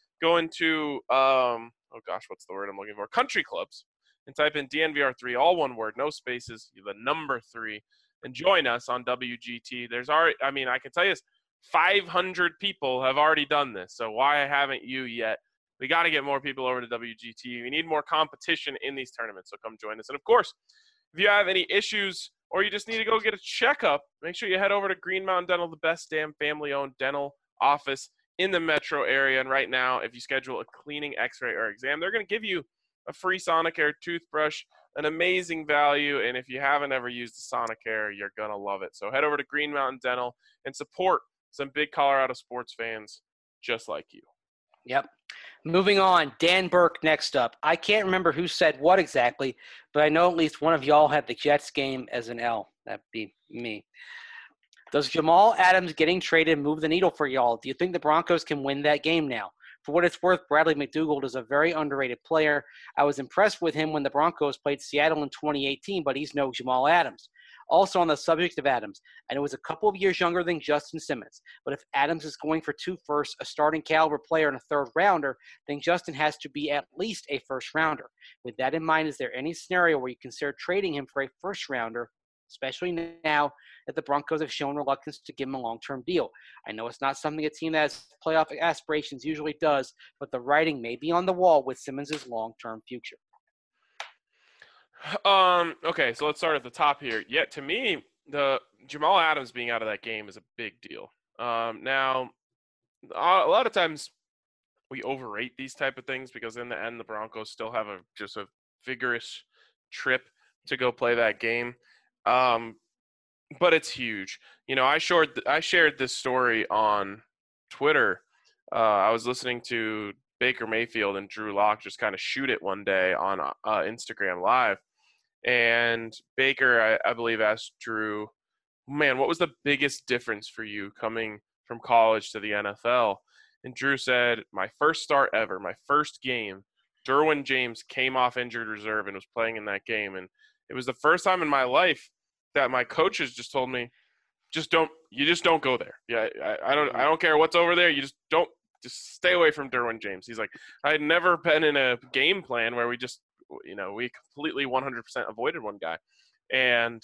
oh gosh, what's the word I'm looking for? Country clubs, and type in DNVR 3, all one word, no spaces, the number 3, and join us on WGT. There's already, I can tell you this, 500 people have already done this. So why haven't you yet? We got to get more people over to WGT. We need more competition in these tournaments, so come join us. And, of course, if you have any issues or you just need to go get a checkup, make sure you head over to Green Mountain Dental, the best damn family-owned dental office in the metro area. And right now, if you schedule a cleaning, x-ray, or exam, they're going to give you a free Sonicare toothbrush, an amazing value. And if you haven't ever used a Sonicare, you're going to love it. So head over to Green Mountain Dental and support some big Colorado sports fans just like you. Yep. Moving on, Dan Burke next up. I can't remember who said what exactly, but I know at least one of y'all had the Jets game as an L. That'd be me. Does Jamal Adams getting traded move the needle for y'all? Do you think the Broncos can win that game now? For what it's worth, Bradley McDougald is a very underrated player. I was impressed with him when the Broncos played Seattle in 2018, but he's no Jamal Adams. Also on the subject of Adams, I know he's a couple of years younger than Justin Simmons, but if Adams is going for 2 firsts, a starting caliber player and a third rounder, then Justin has to be at least a first rounder. With that in mind, is there any scenario where you consider trading him for a first rounder, especially now that the Broncos have shown reluctance to give him a long-term deal? I know it's not something a team that has playoff aspirations usually does, but the writing may be on the wall with Simmons' long-term future. Okay, so let's start at the top here. Yeah, to me, the Jamal Adams being out of that game is a big deal. Now, a lot of times we overrate these type of things because in the end, the Broncos still have just a vigorous trip to go play that game. But it's huge. I shared this story on Twitter. I was listening to Baker Mayfield and Drew Lock just kind of shoot it one day on Instagram Live. And Baker, I believe, asked Drew, man, what was the biggest difference for you coming from college to the NFL? And Drew said, my first start ever, my first game, Derwin James came off injured reserve and was playing in that game. And it was the first time in my life that my coaches just told me, just don't go there. Yeah, I don't care what's over there. You just stay away from Derwin James. He's like, I had never been in a game plan where we just, we completely 100% avoided one guy. And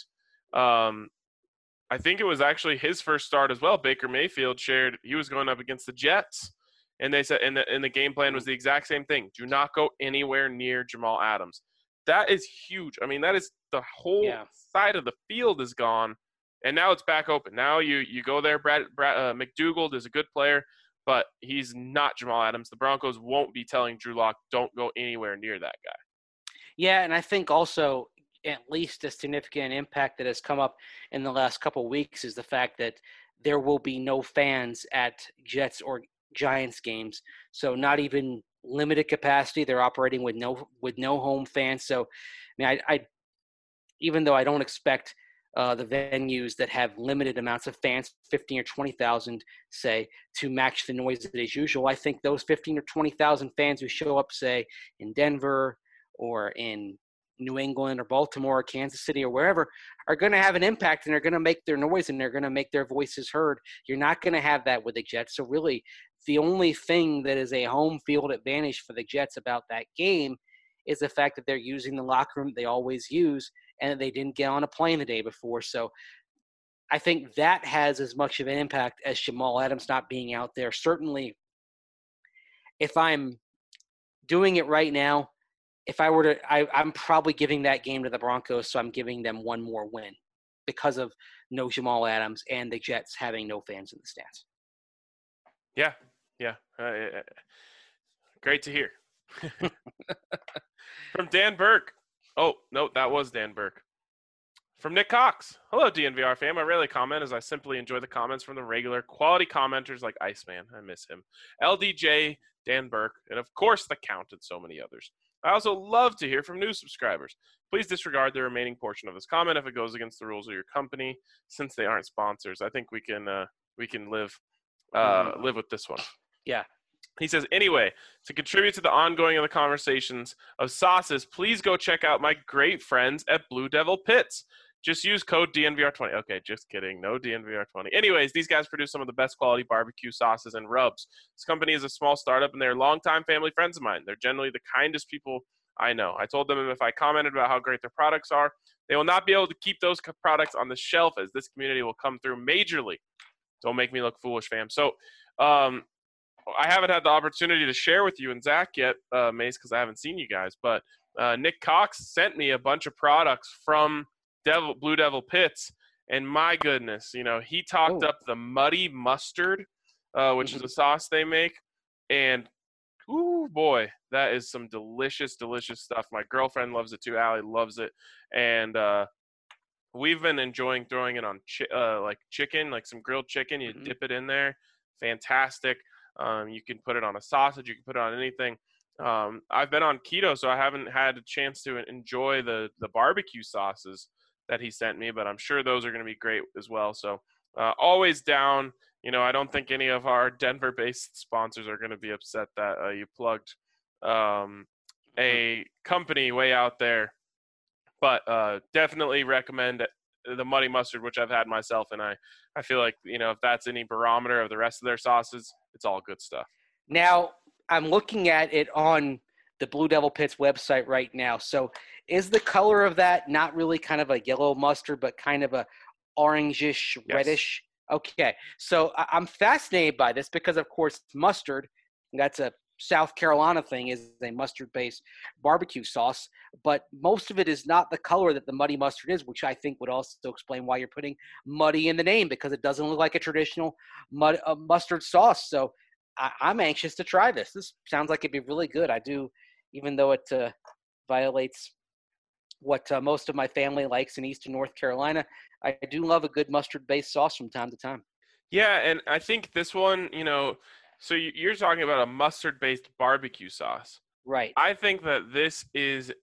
I think it was actually his first start as well. Baker Mayfield shared he was going up against the Jets. And they said, and the game plan was the exact same thing. Do not go anywhere near Jamal Adams. That is huge. I mean, that is the whole side of the field is gone. And now it's back open. Now you go there. McDougald is a good player, but he's not Jamal Adams. The Broncos won't be telling Drew Lock, don't go anywhere near that guy. Yeah, and I think also at least a significant impact that has come up in the last couple of weeks is the fact that there will be no fans at Jets or Giants games. So not even limited capacity. They're operating with no home fans. So I mean, I even though I don't expect the venues that have limited amounts of fans, 15 or 20,000, say, to match the noise that is usual. I think those 15 or 20,000 fans who show up, say, in Denver or in New England or Baltimore or Kansas City or wherever are going to have an impact, and they're going to make their noise and they're going to make their voices heard. You're not going to have that with the Jets. So really the only thing that is a home field advantage for the Jets about that game is the fact that they're using the locker room they always use and they didn't get on a plane the day before. So I think that has as much of an impact as Jamal Adams not being out there. Certainly, if I'm doing it right now, if I were to, I'm probably giving that game to the Broncos, so I'm giving them one more win because of no Jamal Adams and the Jets having no fans in the stands. Yeah. Great to hear. From Dan Burke. Oh, no, that was Dan Burke. From Nick Cox. Hello, DNVR fam. I rarely comment as I simply enjoy the comments from the regular quality commenters like Iceman. I miss him. LDJ, Dan Burke, and of course the Count and so many others. I also love to hear from new subscribers. Please disregard the remaining portion of this comment if it goes against the rules of your company, since they aren't sponsors. I think we can live with this one. Yeah. He says, anyway, to contribute to the ongoing of the conversations of sauces, please go check out my great friends at Blue Devil Pits. Just use code DNVR20. Okay, just kidding. No DNVR20. Anyways, these guys produce some of the best quality barbecue sauces and rubs. This company is a small startup, and they're longtime family friends of mine. They're generally the kindest people I know. I told them if I commented about how great their products are, they will not be able to keep those products on the shelf as this community will come through majorly. Don't make me look foolish, fam. So I haven't had the opportunity to share with you and Zach yet, Mace, because I haven't seen you guys. But Nick Cox sent me a bunch of products from Blue Devil Pits, and my goodness, he talked up the Muddy Mustard, which is a sauce they make, and ooh boy, that is some delicious, delicious stuff. My girlfriend loves it too. Allie loves it, and we've been enjoying throwing it on like chicken, like some grilled chicken. You dip it in there, fantastic. You can put it on a sausage. You can put it on anything. I've been on keto, so I haven't had a chance to enjoy the barbecue sauces that he sent me, but I'm sure those are going to be great as well. So always down. I don't think any of our Denver-based sponsors are going to be upset that you plugged a company way out there. But definitely recommend the Muddy Mustard, which I've had myself, and I feel like, if that's any barometer of the rest of their sauces, it's all good stuff. Now, I'm looking at it on the Blue Devil Pits website right now. So is the color of that not really kind of a yellow mustard, but kind of a orangish, reddish? Okay. So I'm fascinated by this because, of course, mustard, that's a South Carolina thing, is a mustard-based barbecue sauce, but most of it is not the color that the Muddy Mustard is, which I think would also explain why you're putting muddy in the name, because it doesn't look like a traditional mustard sauce. So I'm anxious to try this. This sounds like it'd be really good. I do, even though it violates what most of my family likes in Eastern North Carolina, I do love a good mustard-based sauce from time to time. Yeah, and I think this one, so you're talking about a mustard-based barbecue sauce. Right. I think that this is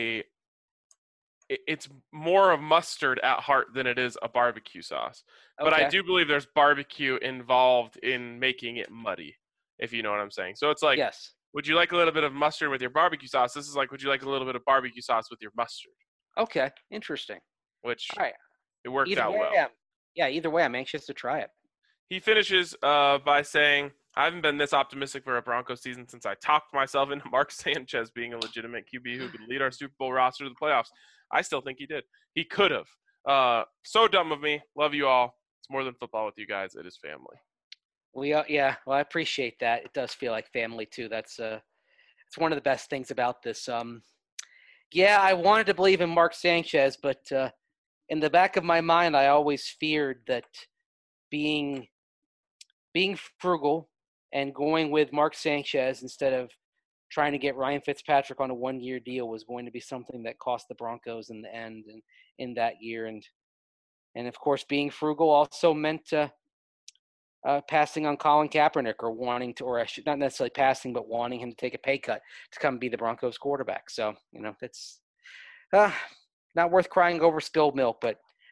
it's more of mustard at heart than it is a barbecue sauce. But I do believe there's barbecue involved in making it muddy, if you know what I'm saying. So it's like, yes. Would you like a little bit of mustard with your barbecue sauce? This is like, would you like a little bit of barbecue sauce with your mustard? Okay, interesting. Which all right. It worked either out way, well. Yeah, either way, I'm anxious to try it. He finishes by saying, I haven't been this optimistic for a Broncos season since I talked myself into Mark Sanchez being a legitimate QB who could lead our Super Bowl roster to the playoffs. I still think he did. He could have. So dumb of me. Love you all. It's more than football with you guys. It is family. Well, I appreciate that. It does feel like family too. That's it's one of the best things about this. I wanted to believe in Mark Sanchez, but in the back of my mind, I always feared that being frugal and going with Mark Sanchez instead of trying to get Ryan Fitzpatrick on a one-year deal was going to be something that cost the Broncos in the end and in that year. And of course, being frugal also meant passing on Colin Kaepernick not necessarily passing, but wanting him to take a pay cut to come be the Broncos quarterback. So, that's not worth crying over spilled milk, but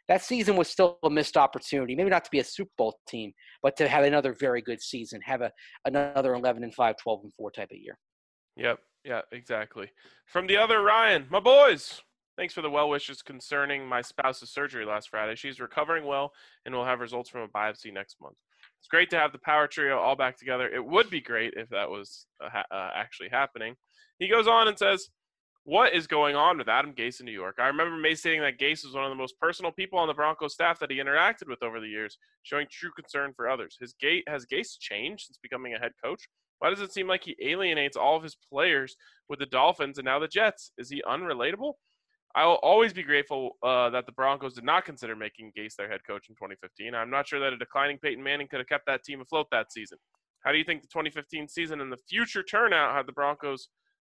that season was still a missed opportunity. Maybe not to be a Super Bowl team, but to have another very good season, have another 11-5, 12-4 type of year. Yep. Yeah, exactly. From the other Ryan, my boys. Thanks for the well wishes concerning my spouse's surgery last Friday. She's recovering well and will have results from a biopsy next month. It's great to have the power trio all back together. It would be great if that was actually happening. He goes on and says, what is going on with Adam Gase in New York? I remember Mace stating that Gase was one of the most personal people on the Broncos staff that he interacted with over the years, showing true concern for others. Has Gase changed since becoming a head coach? Why does it seem like he alienates all of his players with the Dolphins and now the Jets? Is he unrelatable? I will always be grateful that the Broncos did not consider making Gase their head coach in 2015. I'm not sure that a declining Peyton Manning could have kept that team afloat that season. How do you think the 2015 season and the future turnout had the Broncos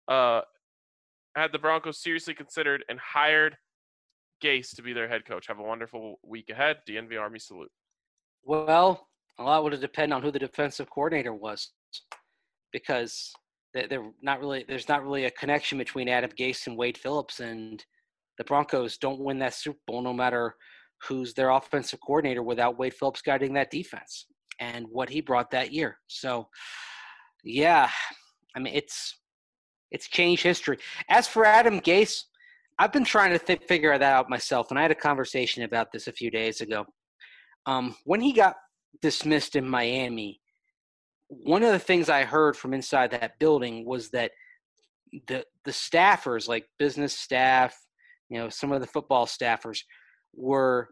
seriously considered and hired Gase to be their head coach? Have a wonderful week ahead. DNV Army salute. Well, a lot would depend on who the defensive coordinator was, because there's not really a connection between Adam Gase and Wade Phillips, and the Broncos don't win that Super Bowl no matter who's their offensive coordinator without Wade Phillips guiding that defense and what he brought that year. So, yeah, I mean, it's changed history. As for Adam Gase, I've been trying to figure that out myself, and I had a conversation about this a few days ago. When he got dismissed in Miami, one of the things I heard from inside that building was that the staffers, like business staff, some of the football staffers, were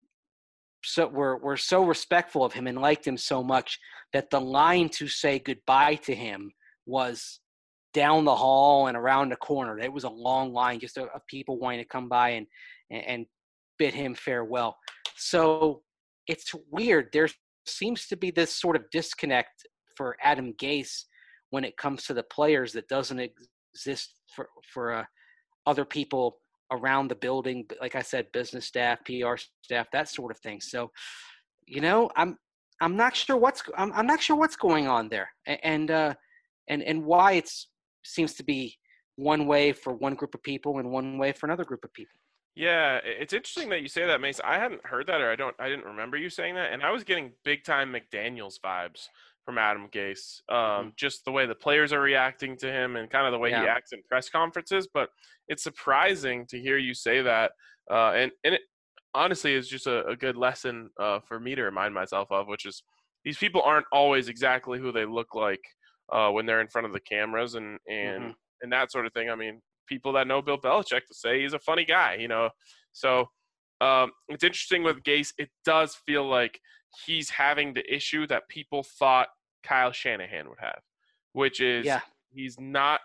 so respectful of him and liked him so much that the line to say goodbye to him was down the hall and around the corner. It was a long line just of people wanting to come by and bid him farewell. So it's weird. There seems to be this sort of disconnect for Adam Gase when it comes to the players that doesn't exist for other people around the building. Like I said, business staff, PR staff, that sort of thing. So, I'm not sure I'm not sure what's going on there, and why it seems to be one way for one group of people and one way for another group of people. Yeah, it's interesting that you say that, Mace. I hadn't heard that, or I didn't remember you saying that, and I was getting big time McDaniels vibes from Adam Gase. Just the way the players are reacting to him and kind of the way he acts in press conferences. But it's surprising to hear you say that, and it honestly is just a good lesson for me to remind myself of, which is these people aren't always exactly who they look like when they're in front of the cameras and that sort of thing. I mean, people that know Bill Belichick to say he's a funny guy, So it's interesting with Gase. It does feel like he's having the issue that people thought Kyle Shanahan would have, which is he's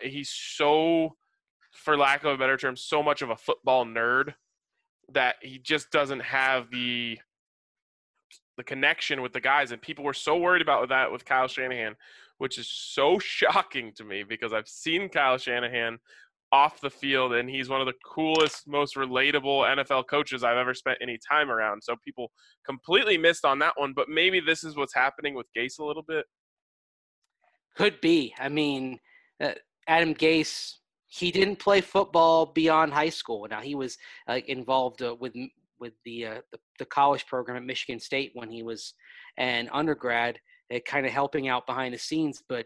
so, for lack of a better term, so much of a football nerd that he just doesn't have the connection with the guys. And people were so worried about that with Kyle Shanahan, which is so shocking to me because I've seen Kyle Shanahan off the field, and he's one of the coolest, most relatable NFL coaches I've ever spent any time around. So people completely missed on that one, but maybe this is what's happening with Gase a little bit. Could be. I mean, Adam Gase, he didn't play football beyond high school. Now he was involved with the college program at Michigan State when he was an undergrad, kind of helping out behind the scenes. But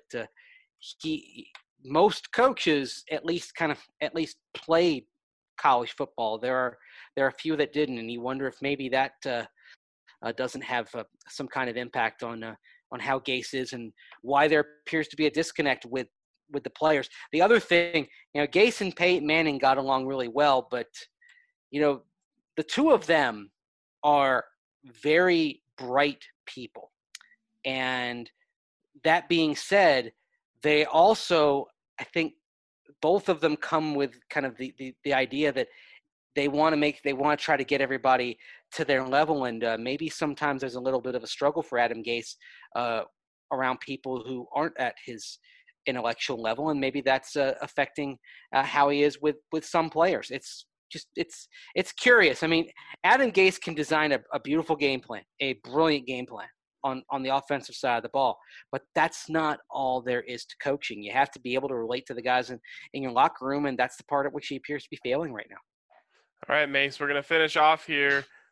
most coaches at least played college football. There are a few that didn't, and you wonder if maybe that doesn't have some kind of impact on how Gase is and why there appears to be a disconnect with the players. The other thing, Gase and Peyton Manning got along really well, but the two of them are very bright people. And that being said, they also, I think both of them come with kind of the idea that they want to try to get everybody to their level. And maybe sometimes there's a little bit of a struggle for Adam Gase around people who aren't at his intellectual level. And maybe that's affecting how he is with some players. It's curious. I mean, Adam Gase can design a beautiful game plan, a brilliant game plan on the offensive side of the ball, but that's not all there is to coaching. You have to be able to relate to the guys in your locker room, and that's the part at which he appears to be failing right now. All right, Mace, we're going to finish off here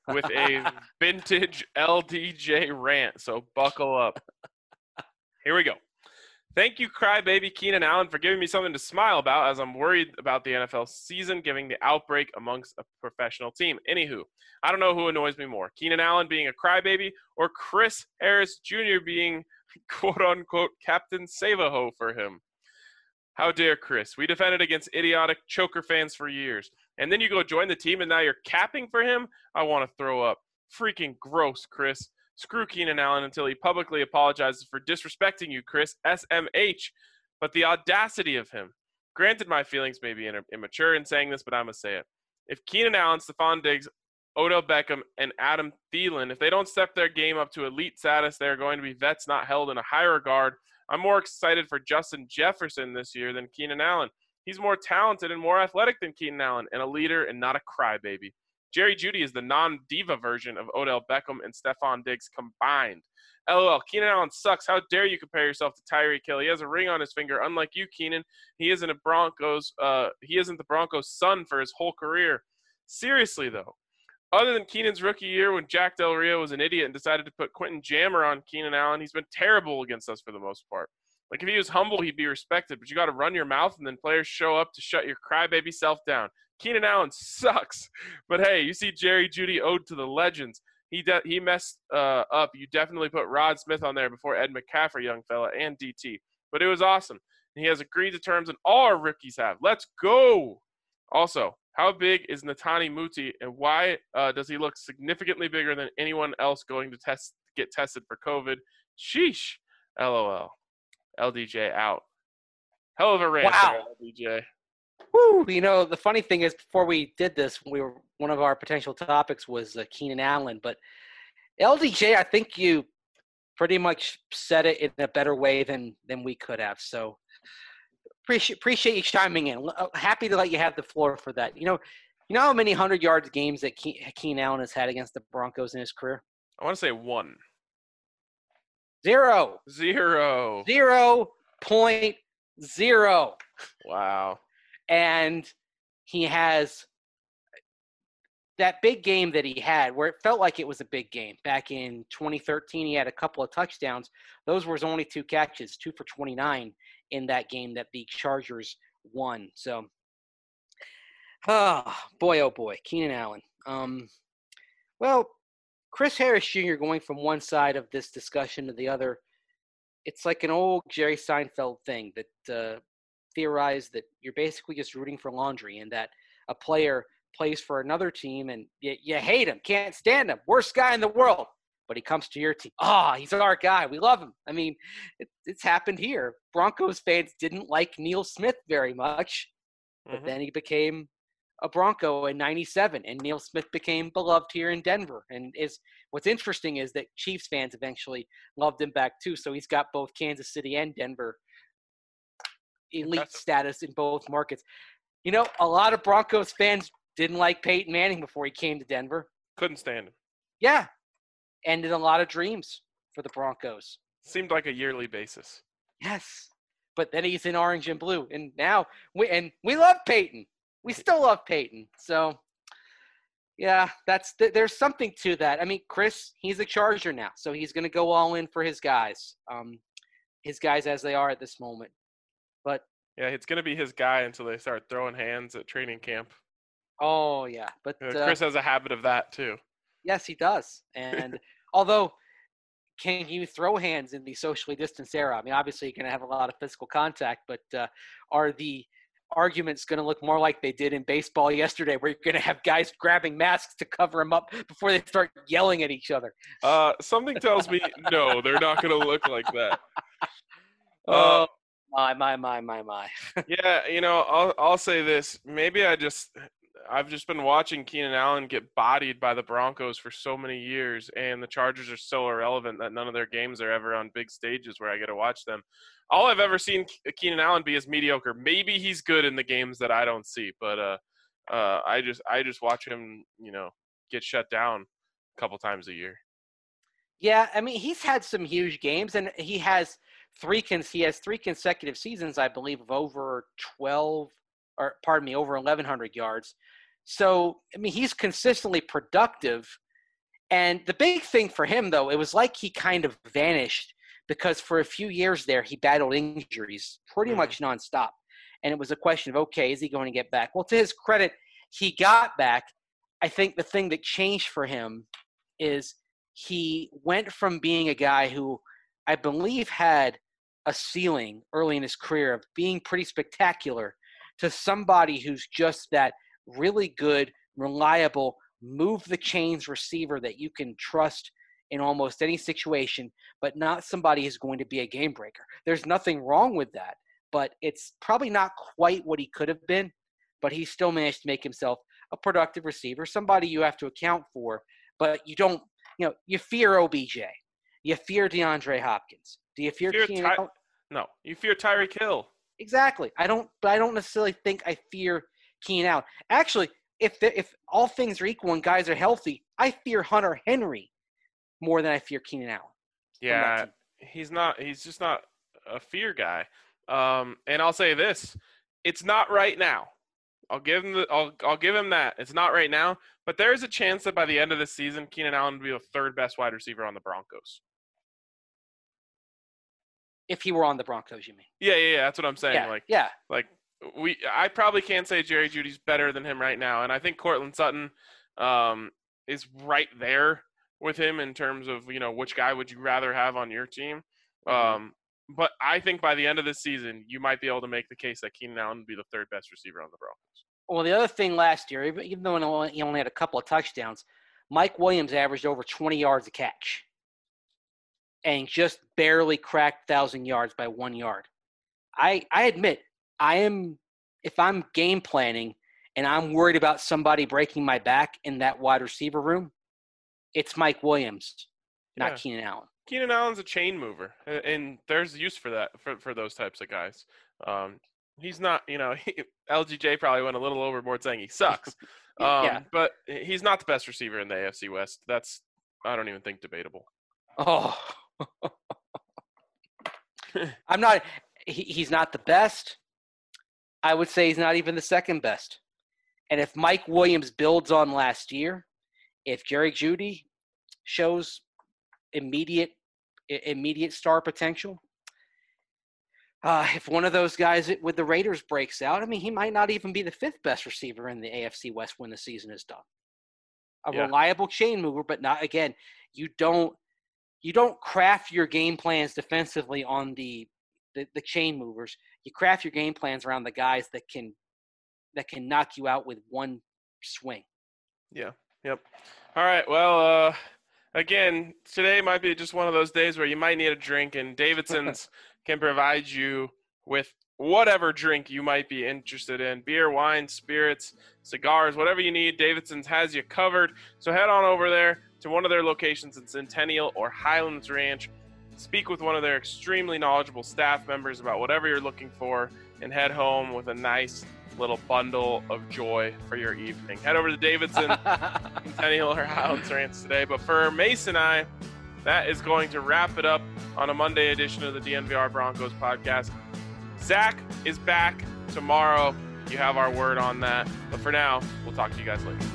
with a vintage LDJ rant. So buckle up. Here we go. Thank you, crybaby Keenan Allen, for giving me something to smile about as I'm worried about the NFL season giving the outbreak amongst a professional team. Anywho, I don't know who annoys me more, Keenan Allen being a crybaby or Chris Harris Jr. being quote-unquote Captain Save-A-Ho for him. How dare Chris? We defended against idiotic choker fans for years. And then you go join the team and now you're capping for him? I want to throw up. Freaking gross, Chris. Screw Keenan Allen until he publicly apologizes for disrespecting you, Chris. SMH. But the audacity of him. Granted, my feelings may be immature in saying this, but I'm going to say it. If Keenan Allen, Stephon Diggs, Odell Beckham, and Adam Thielen, if they don't step their game up to elite status, they're going to be vets not held in a high regard. I'm more excited for Justin Jefferson this year than Keenan Allen. He's more talented and more athletic than Keenan Allen, and a leader and not a crybaby. Jerry Jeudy is the non-diva version of Odell Beckham and Stephon Diggs combined. LOL, Keenan Allen sucks. How dare you compare yourself to Tyreek Hill? He has a ring on his finger. Unlike you, Keenan, he isn't the Broncos' son for his whole career. Seriously, though, other than Keenan's rookie year when Jack Del Rio was an idiot and decided to put Quentin Jammer on Keenan Allen, he's been terrible against us for the most part. Like, if he was humble, he'd be respected, but you got to run your mouth and then players show up to shut your crybaby self down. Keenan Allen sucks. But, hey, you see Jerry Jeudy ode to the legends. He messed up. You definitely put Rod Smith on there before Ed McCaffrey, young fella, and DT. But it was awesome. And he has agreed to terms, and all our rookies have. Let's go. Also, how big is Netani Muti, and why does he look significantly bigger than anyone else going to get tested for COVID? Sheesh. LOL. LDJ out. Hell of a rant there, LDJ. Woo! You know, the funny thing is, before we did this, one of our potential topics was Keenan Allen, but LDJ, I think you pretty much said it in a better way than we could have. So appreciate you chiming in. Happy to let you have the floor for that. You know how many 100-yard games that Keenan Allen has had against the Broncos in his career? I want to say 1. 0. 0.0. Wow. And he has that big game that he had where it felt like it was a big game. Back in 2013, he had a couple of touchdowns. Those were his only 2 catches, 2 for 29 in that game that the Chargers won. So, oh boy, Keenan Allen. Well, Chris Harris Jr. going from one side of this discussion to the other, it's like an old Jerry Seinfeld thing that theorized that you're basically just rooting for laundry and that a player plays for another team and you hate him, can't stand him, worst guy in the world, but he comes to your team. He's our guy. We love him. I mean, it's happened here. Broncos fans didn't like Neil Smith very much, but then he became a Bronco in 97, and Neil Smith became beloved here in Denver. And what's interesting is that Chiefs fans eventually loved him back too, so he's got both Kansas City and Denver elite status in both markets. You know, a lot of Broncos fans didn't like Peyton Manning before he came to Denver. Couldn't stand him. Yeah. Ended a lot of dreams for the Broncos. Seemed like a yearly basis. Yes. But then he's in orange and blue. And now we love Peyton. We still love Peyton. So, yeah, there's something to that. I mean, Chris, he's a Charger now. So he's going to go all in for his guys as they are at this moment. But yeah, it's going to be his guy until they start throwing hands at training camp. Oh, yeah. But Chris has a habit of that, too. Yes, he does. And although, can you throw hands in the socially distanced era? I mean, obviously, you're going to have a lot of physical contact, but are the arguments going to look more like they did in baseball yesterday, where you're going to have guys grabbing masks to cover them up before they start yelling at each other? Something tells me, no, they're not going to look like that. My. Yeah, you know, I'll say this. Maybe I've just been watching Keenan Allen get bodied by the Broncos for so many years, and the Chargers are so irrelevant that none of their games are ever on big stages where I get to watch them. All I've ever seen Keenan Allen be is mediocre. Maybe he's good in the games that I don't see, but I just watch him, you know, get shut down a couple times a year. Yeah, I mean, he's had some huge games, and he has three consecutive seasons, I believe, of over 1,100 yards. So, I mean, he's consistently productive, And the big thing for him, though, it was like he kind of vanished because for a few years there, he battled injuries pretty much nonstop. And it was a question of, okay, is he going to get back? Well, to his credit, he got back. I think the thing that changed for him is he went from being a guy who I believe had a ceiling early in his career of being pretty spectacular to somebody who's just that really good, reliable, move the chains receiver that you can trust in almost any situation, but not somebody who's going to be a game breaker. There's nothing wrong with that, but it's probably not quite what he could have been, but he still managed to make himself a productive receiver, somebody you have to account for, but you don't, you fear OBJ. You fear DeAndre Hopkins. Do you fear Keenan Allen? No, you fear Tyreek Hill. Exactly. I don't necessarily think I fear Keenan Allen. Actually, if all things are equal and guys are healthy, I fear Hunter Henry more than I fear Keenan Allen. Yeah, he's just not a fear guy. And I'll say this, it's not right now. I'll give him that. It's not right now, but there is a chance that by the end of the season, Keenan Allen will be the third best wide receiver on the Broncos. If he were on the Broncos, you mean? Yeah, that's what I'm saying. Yeah. I probably can't say Jerry Jeudy's better than him right now, and I think Courtland Sutton is right there with him in terms of, which guy would you rather have on your team. But I think by the end of this season, you might be able to make the case that Keenan Allen would be the third best receiver on the Broncos. Well, the other thing last year, even though he only had a couple of touchdowns, Mike Williams averaged over 20 yards a catch and just barely cracked 1,000 yards by 1 yard. I admit, if I'm game planning and I'm worried about somebody breaking my back in that wide receiver room, it's Mike Williams, not Keenan Allen. Keenan Allen's a chain mover, and there's use for that for those types of guys. He's not, LGJ probably went a little overboard saying he sucks. But he's not the best receiver in the AFC West. That's, I don't even think, debatable. Oh. He's not the best. I would say he's not even the second best. And if Mike Williams builds on last year, if Jerry Jeudy shows immediate star potential, if one of those guys with the Raiders breaks out, he might not even be the fifth best receiver in the AFC West when the season is done. Reliable chain mover, but not, again, you don't craft your game plans defensively on the chain movers. You craft your game plans around the guys that can knock you out with one swing. Yeah. Yep. All right. Well, again, today might be just one of those days where you might need a drink, and Davidson's can provide you with whatever drink you might be interested in. Beer, wine, spirits, cigars, whatever you need, Davidson's has you covered. So head on over there to one of their locations in Centennial or Highlands Ranch. Speak with one of their extremely knowledgeable staff members about whatever you're looking for, and head home with a nice little bundle of joy for your evening. Head over to Davidson, Centennial or Highlands Ranch today. But for Mason and I, that is going to wrap it up on a Monday edition of the DNVR Broncos podcast. Zach is back tomorrow. You have our word on that. But for now, we'll talk to you guys later.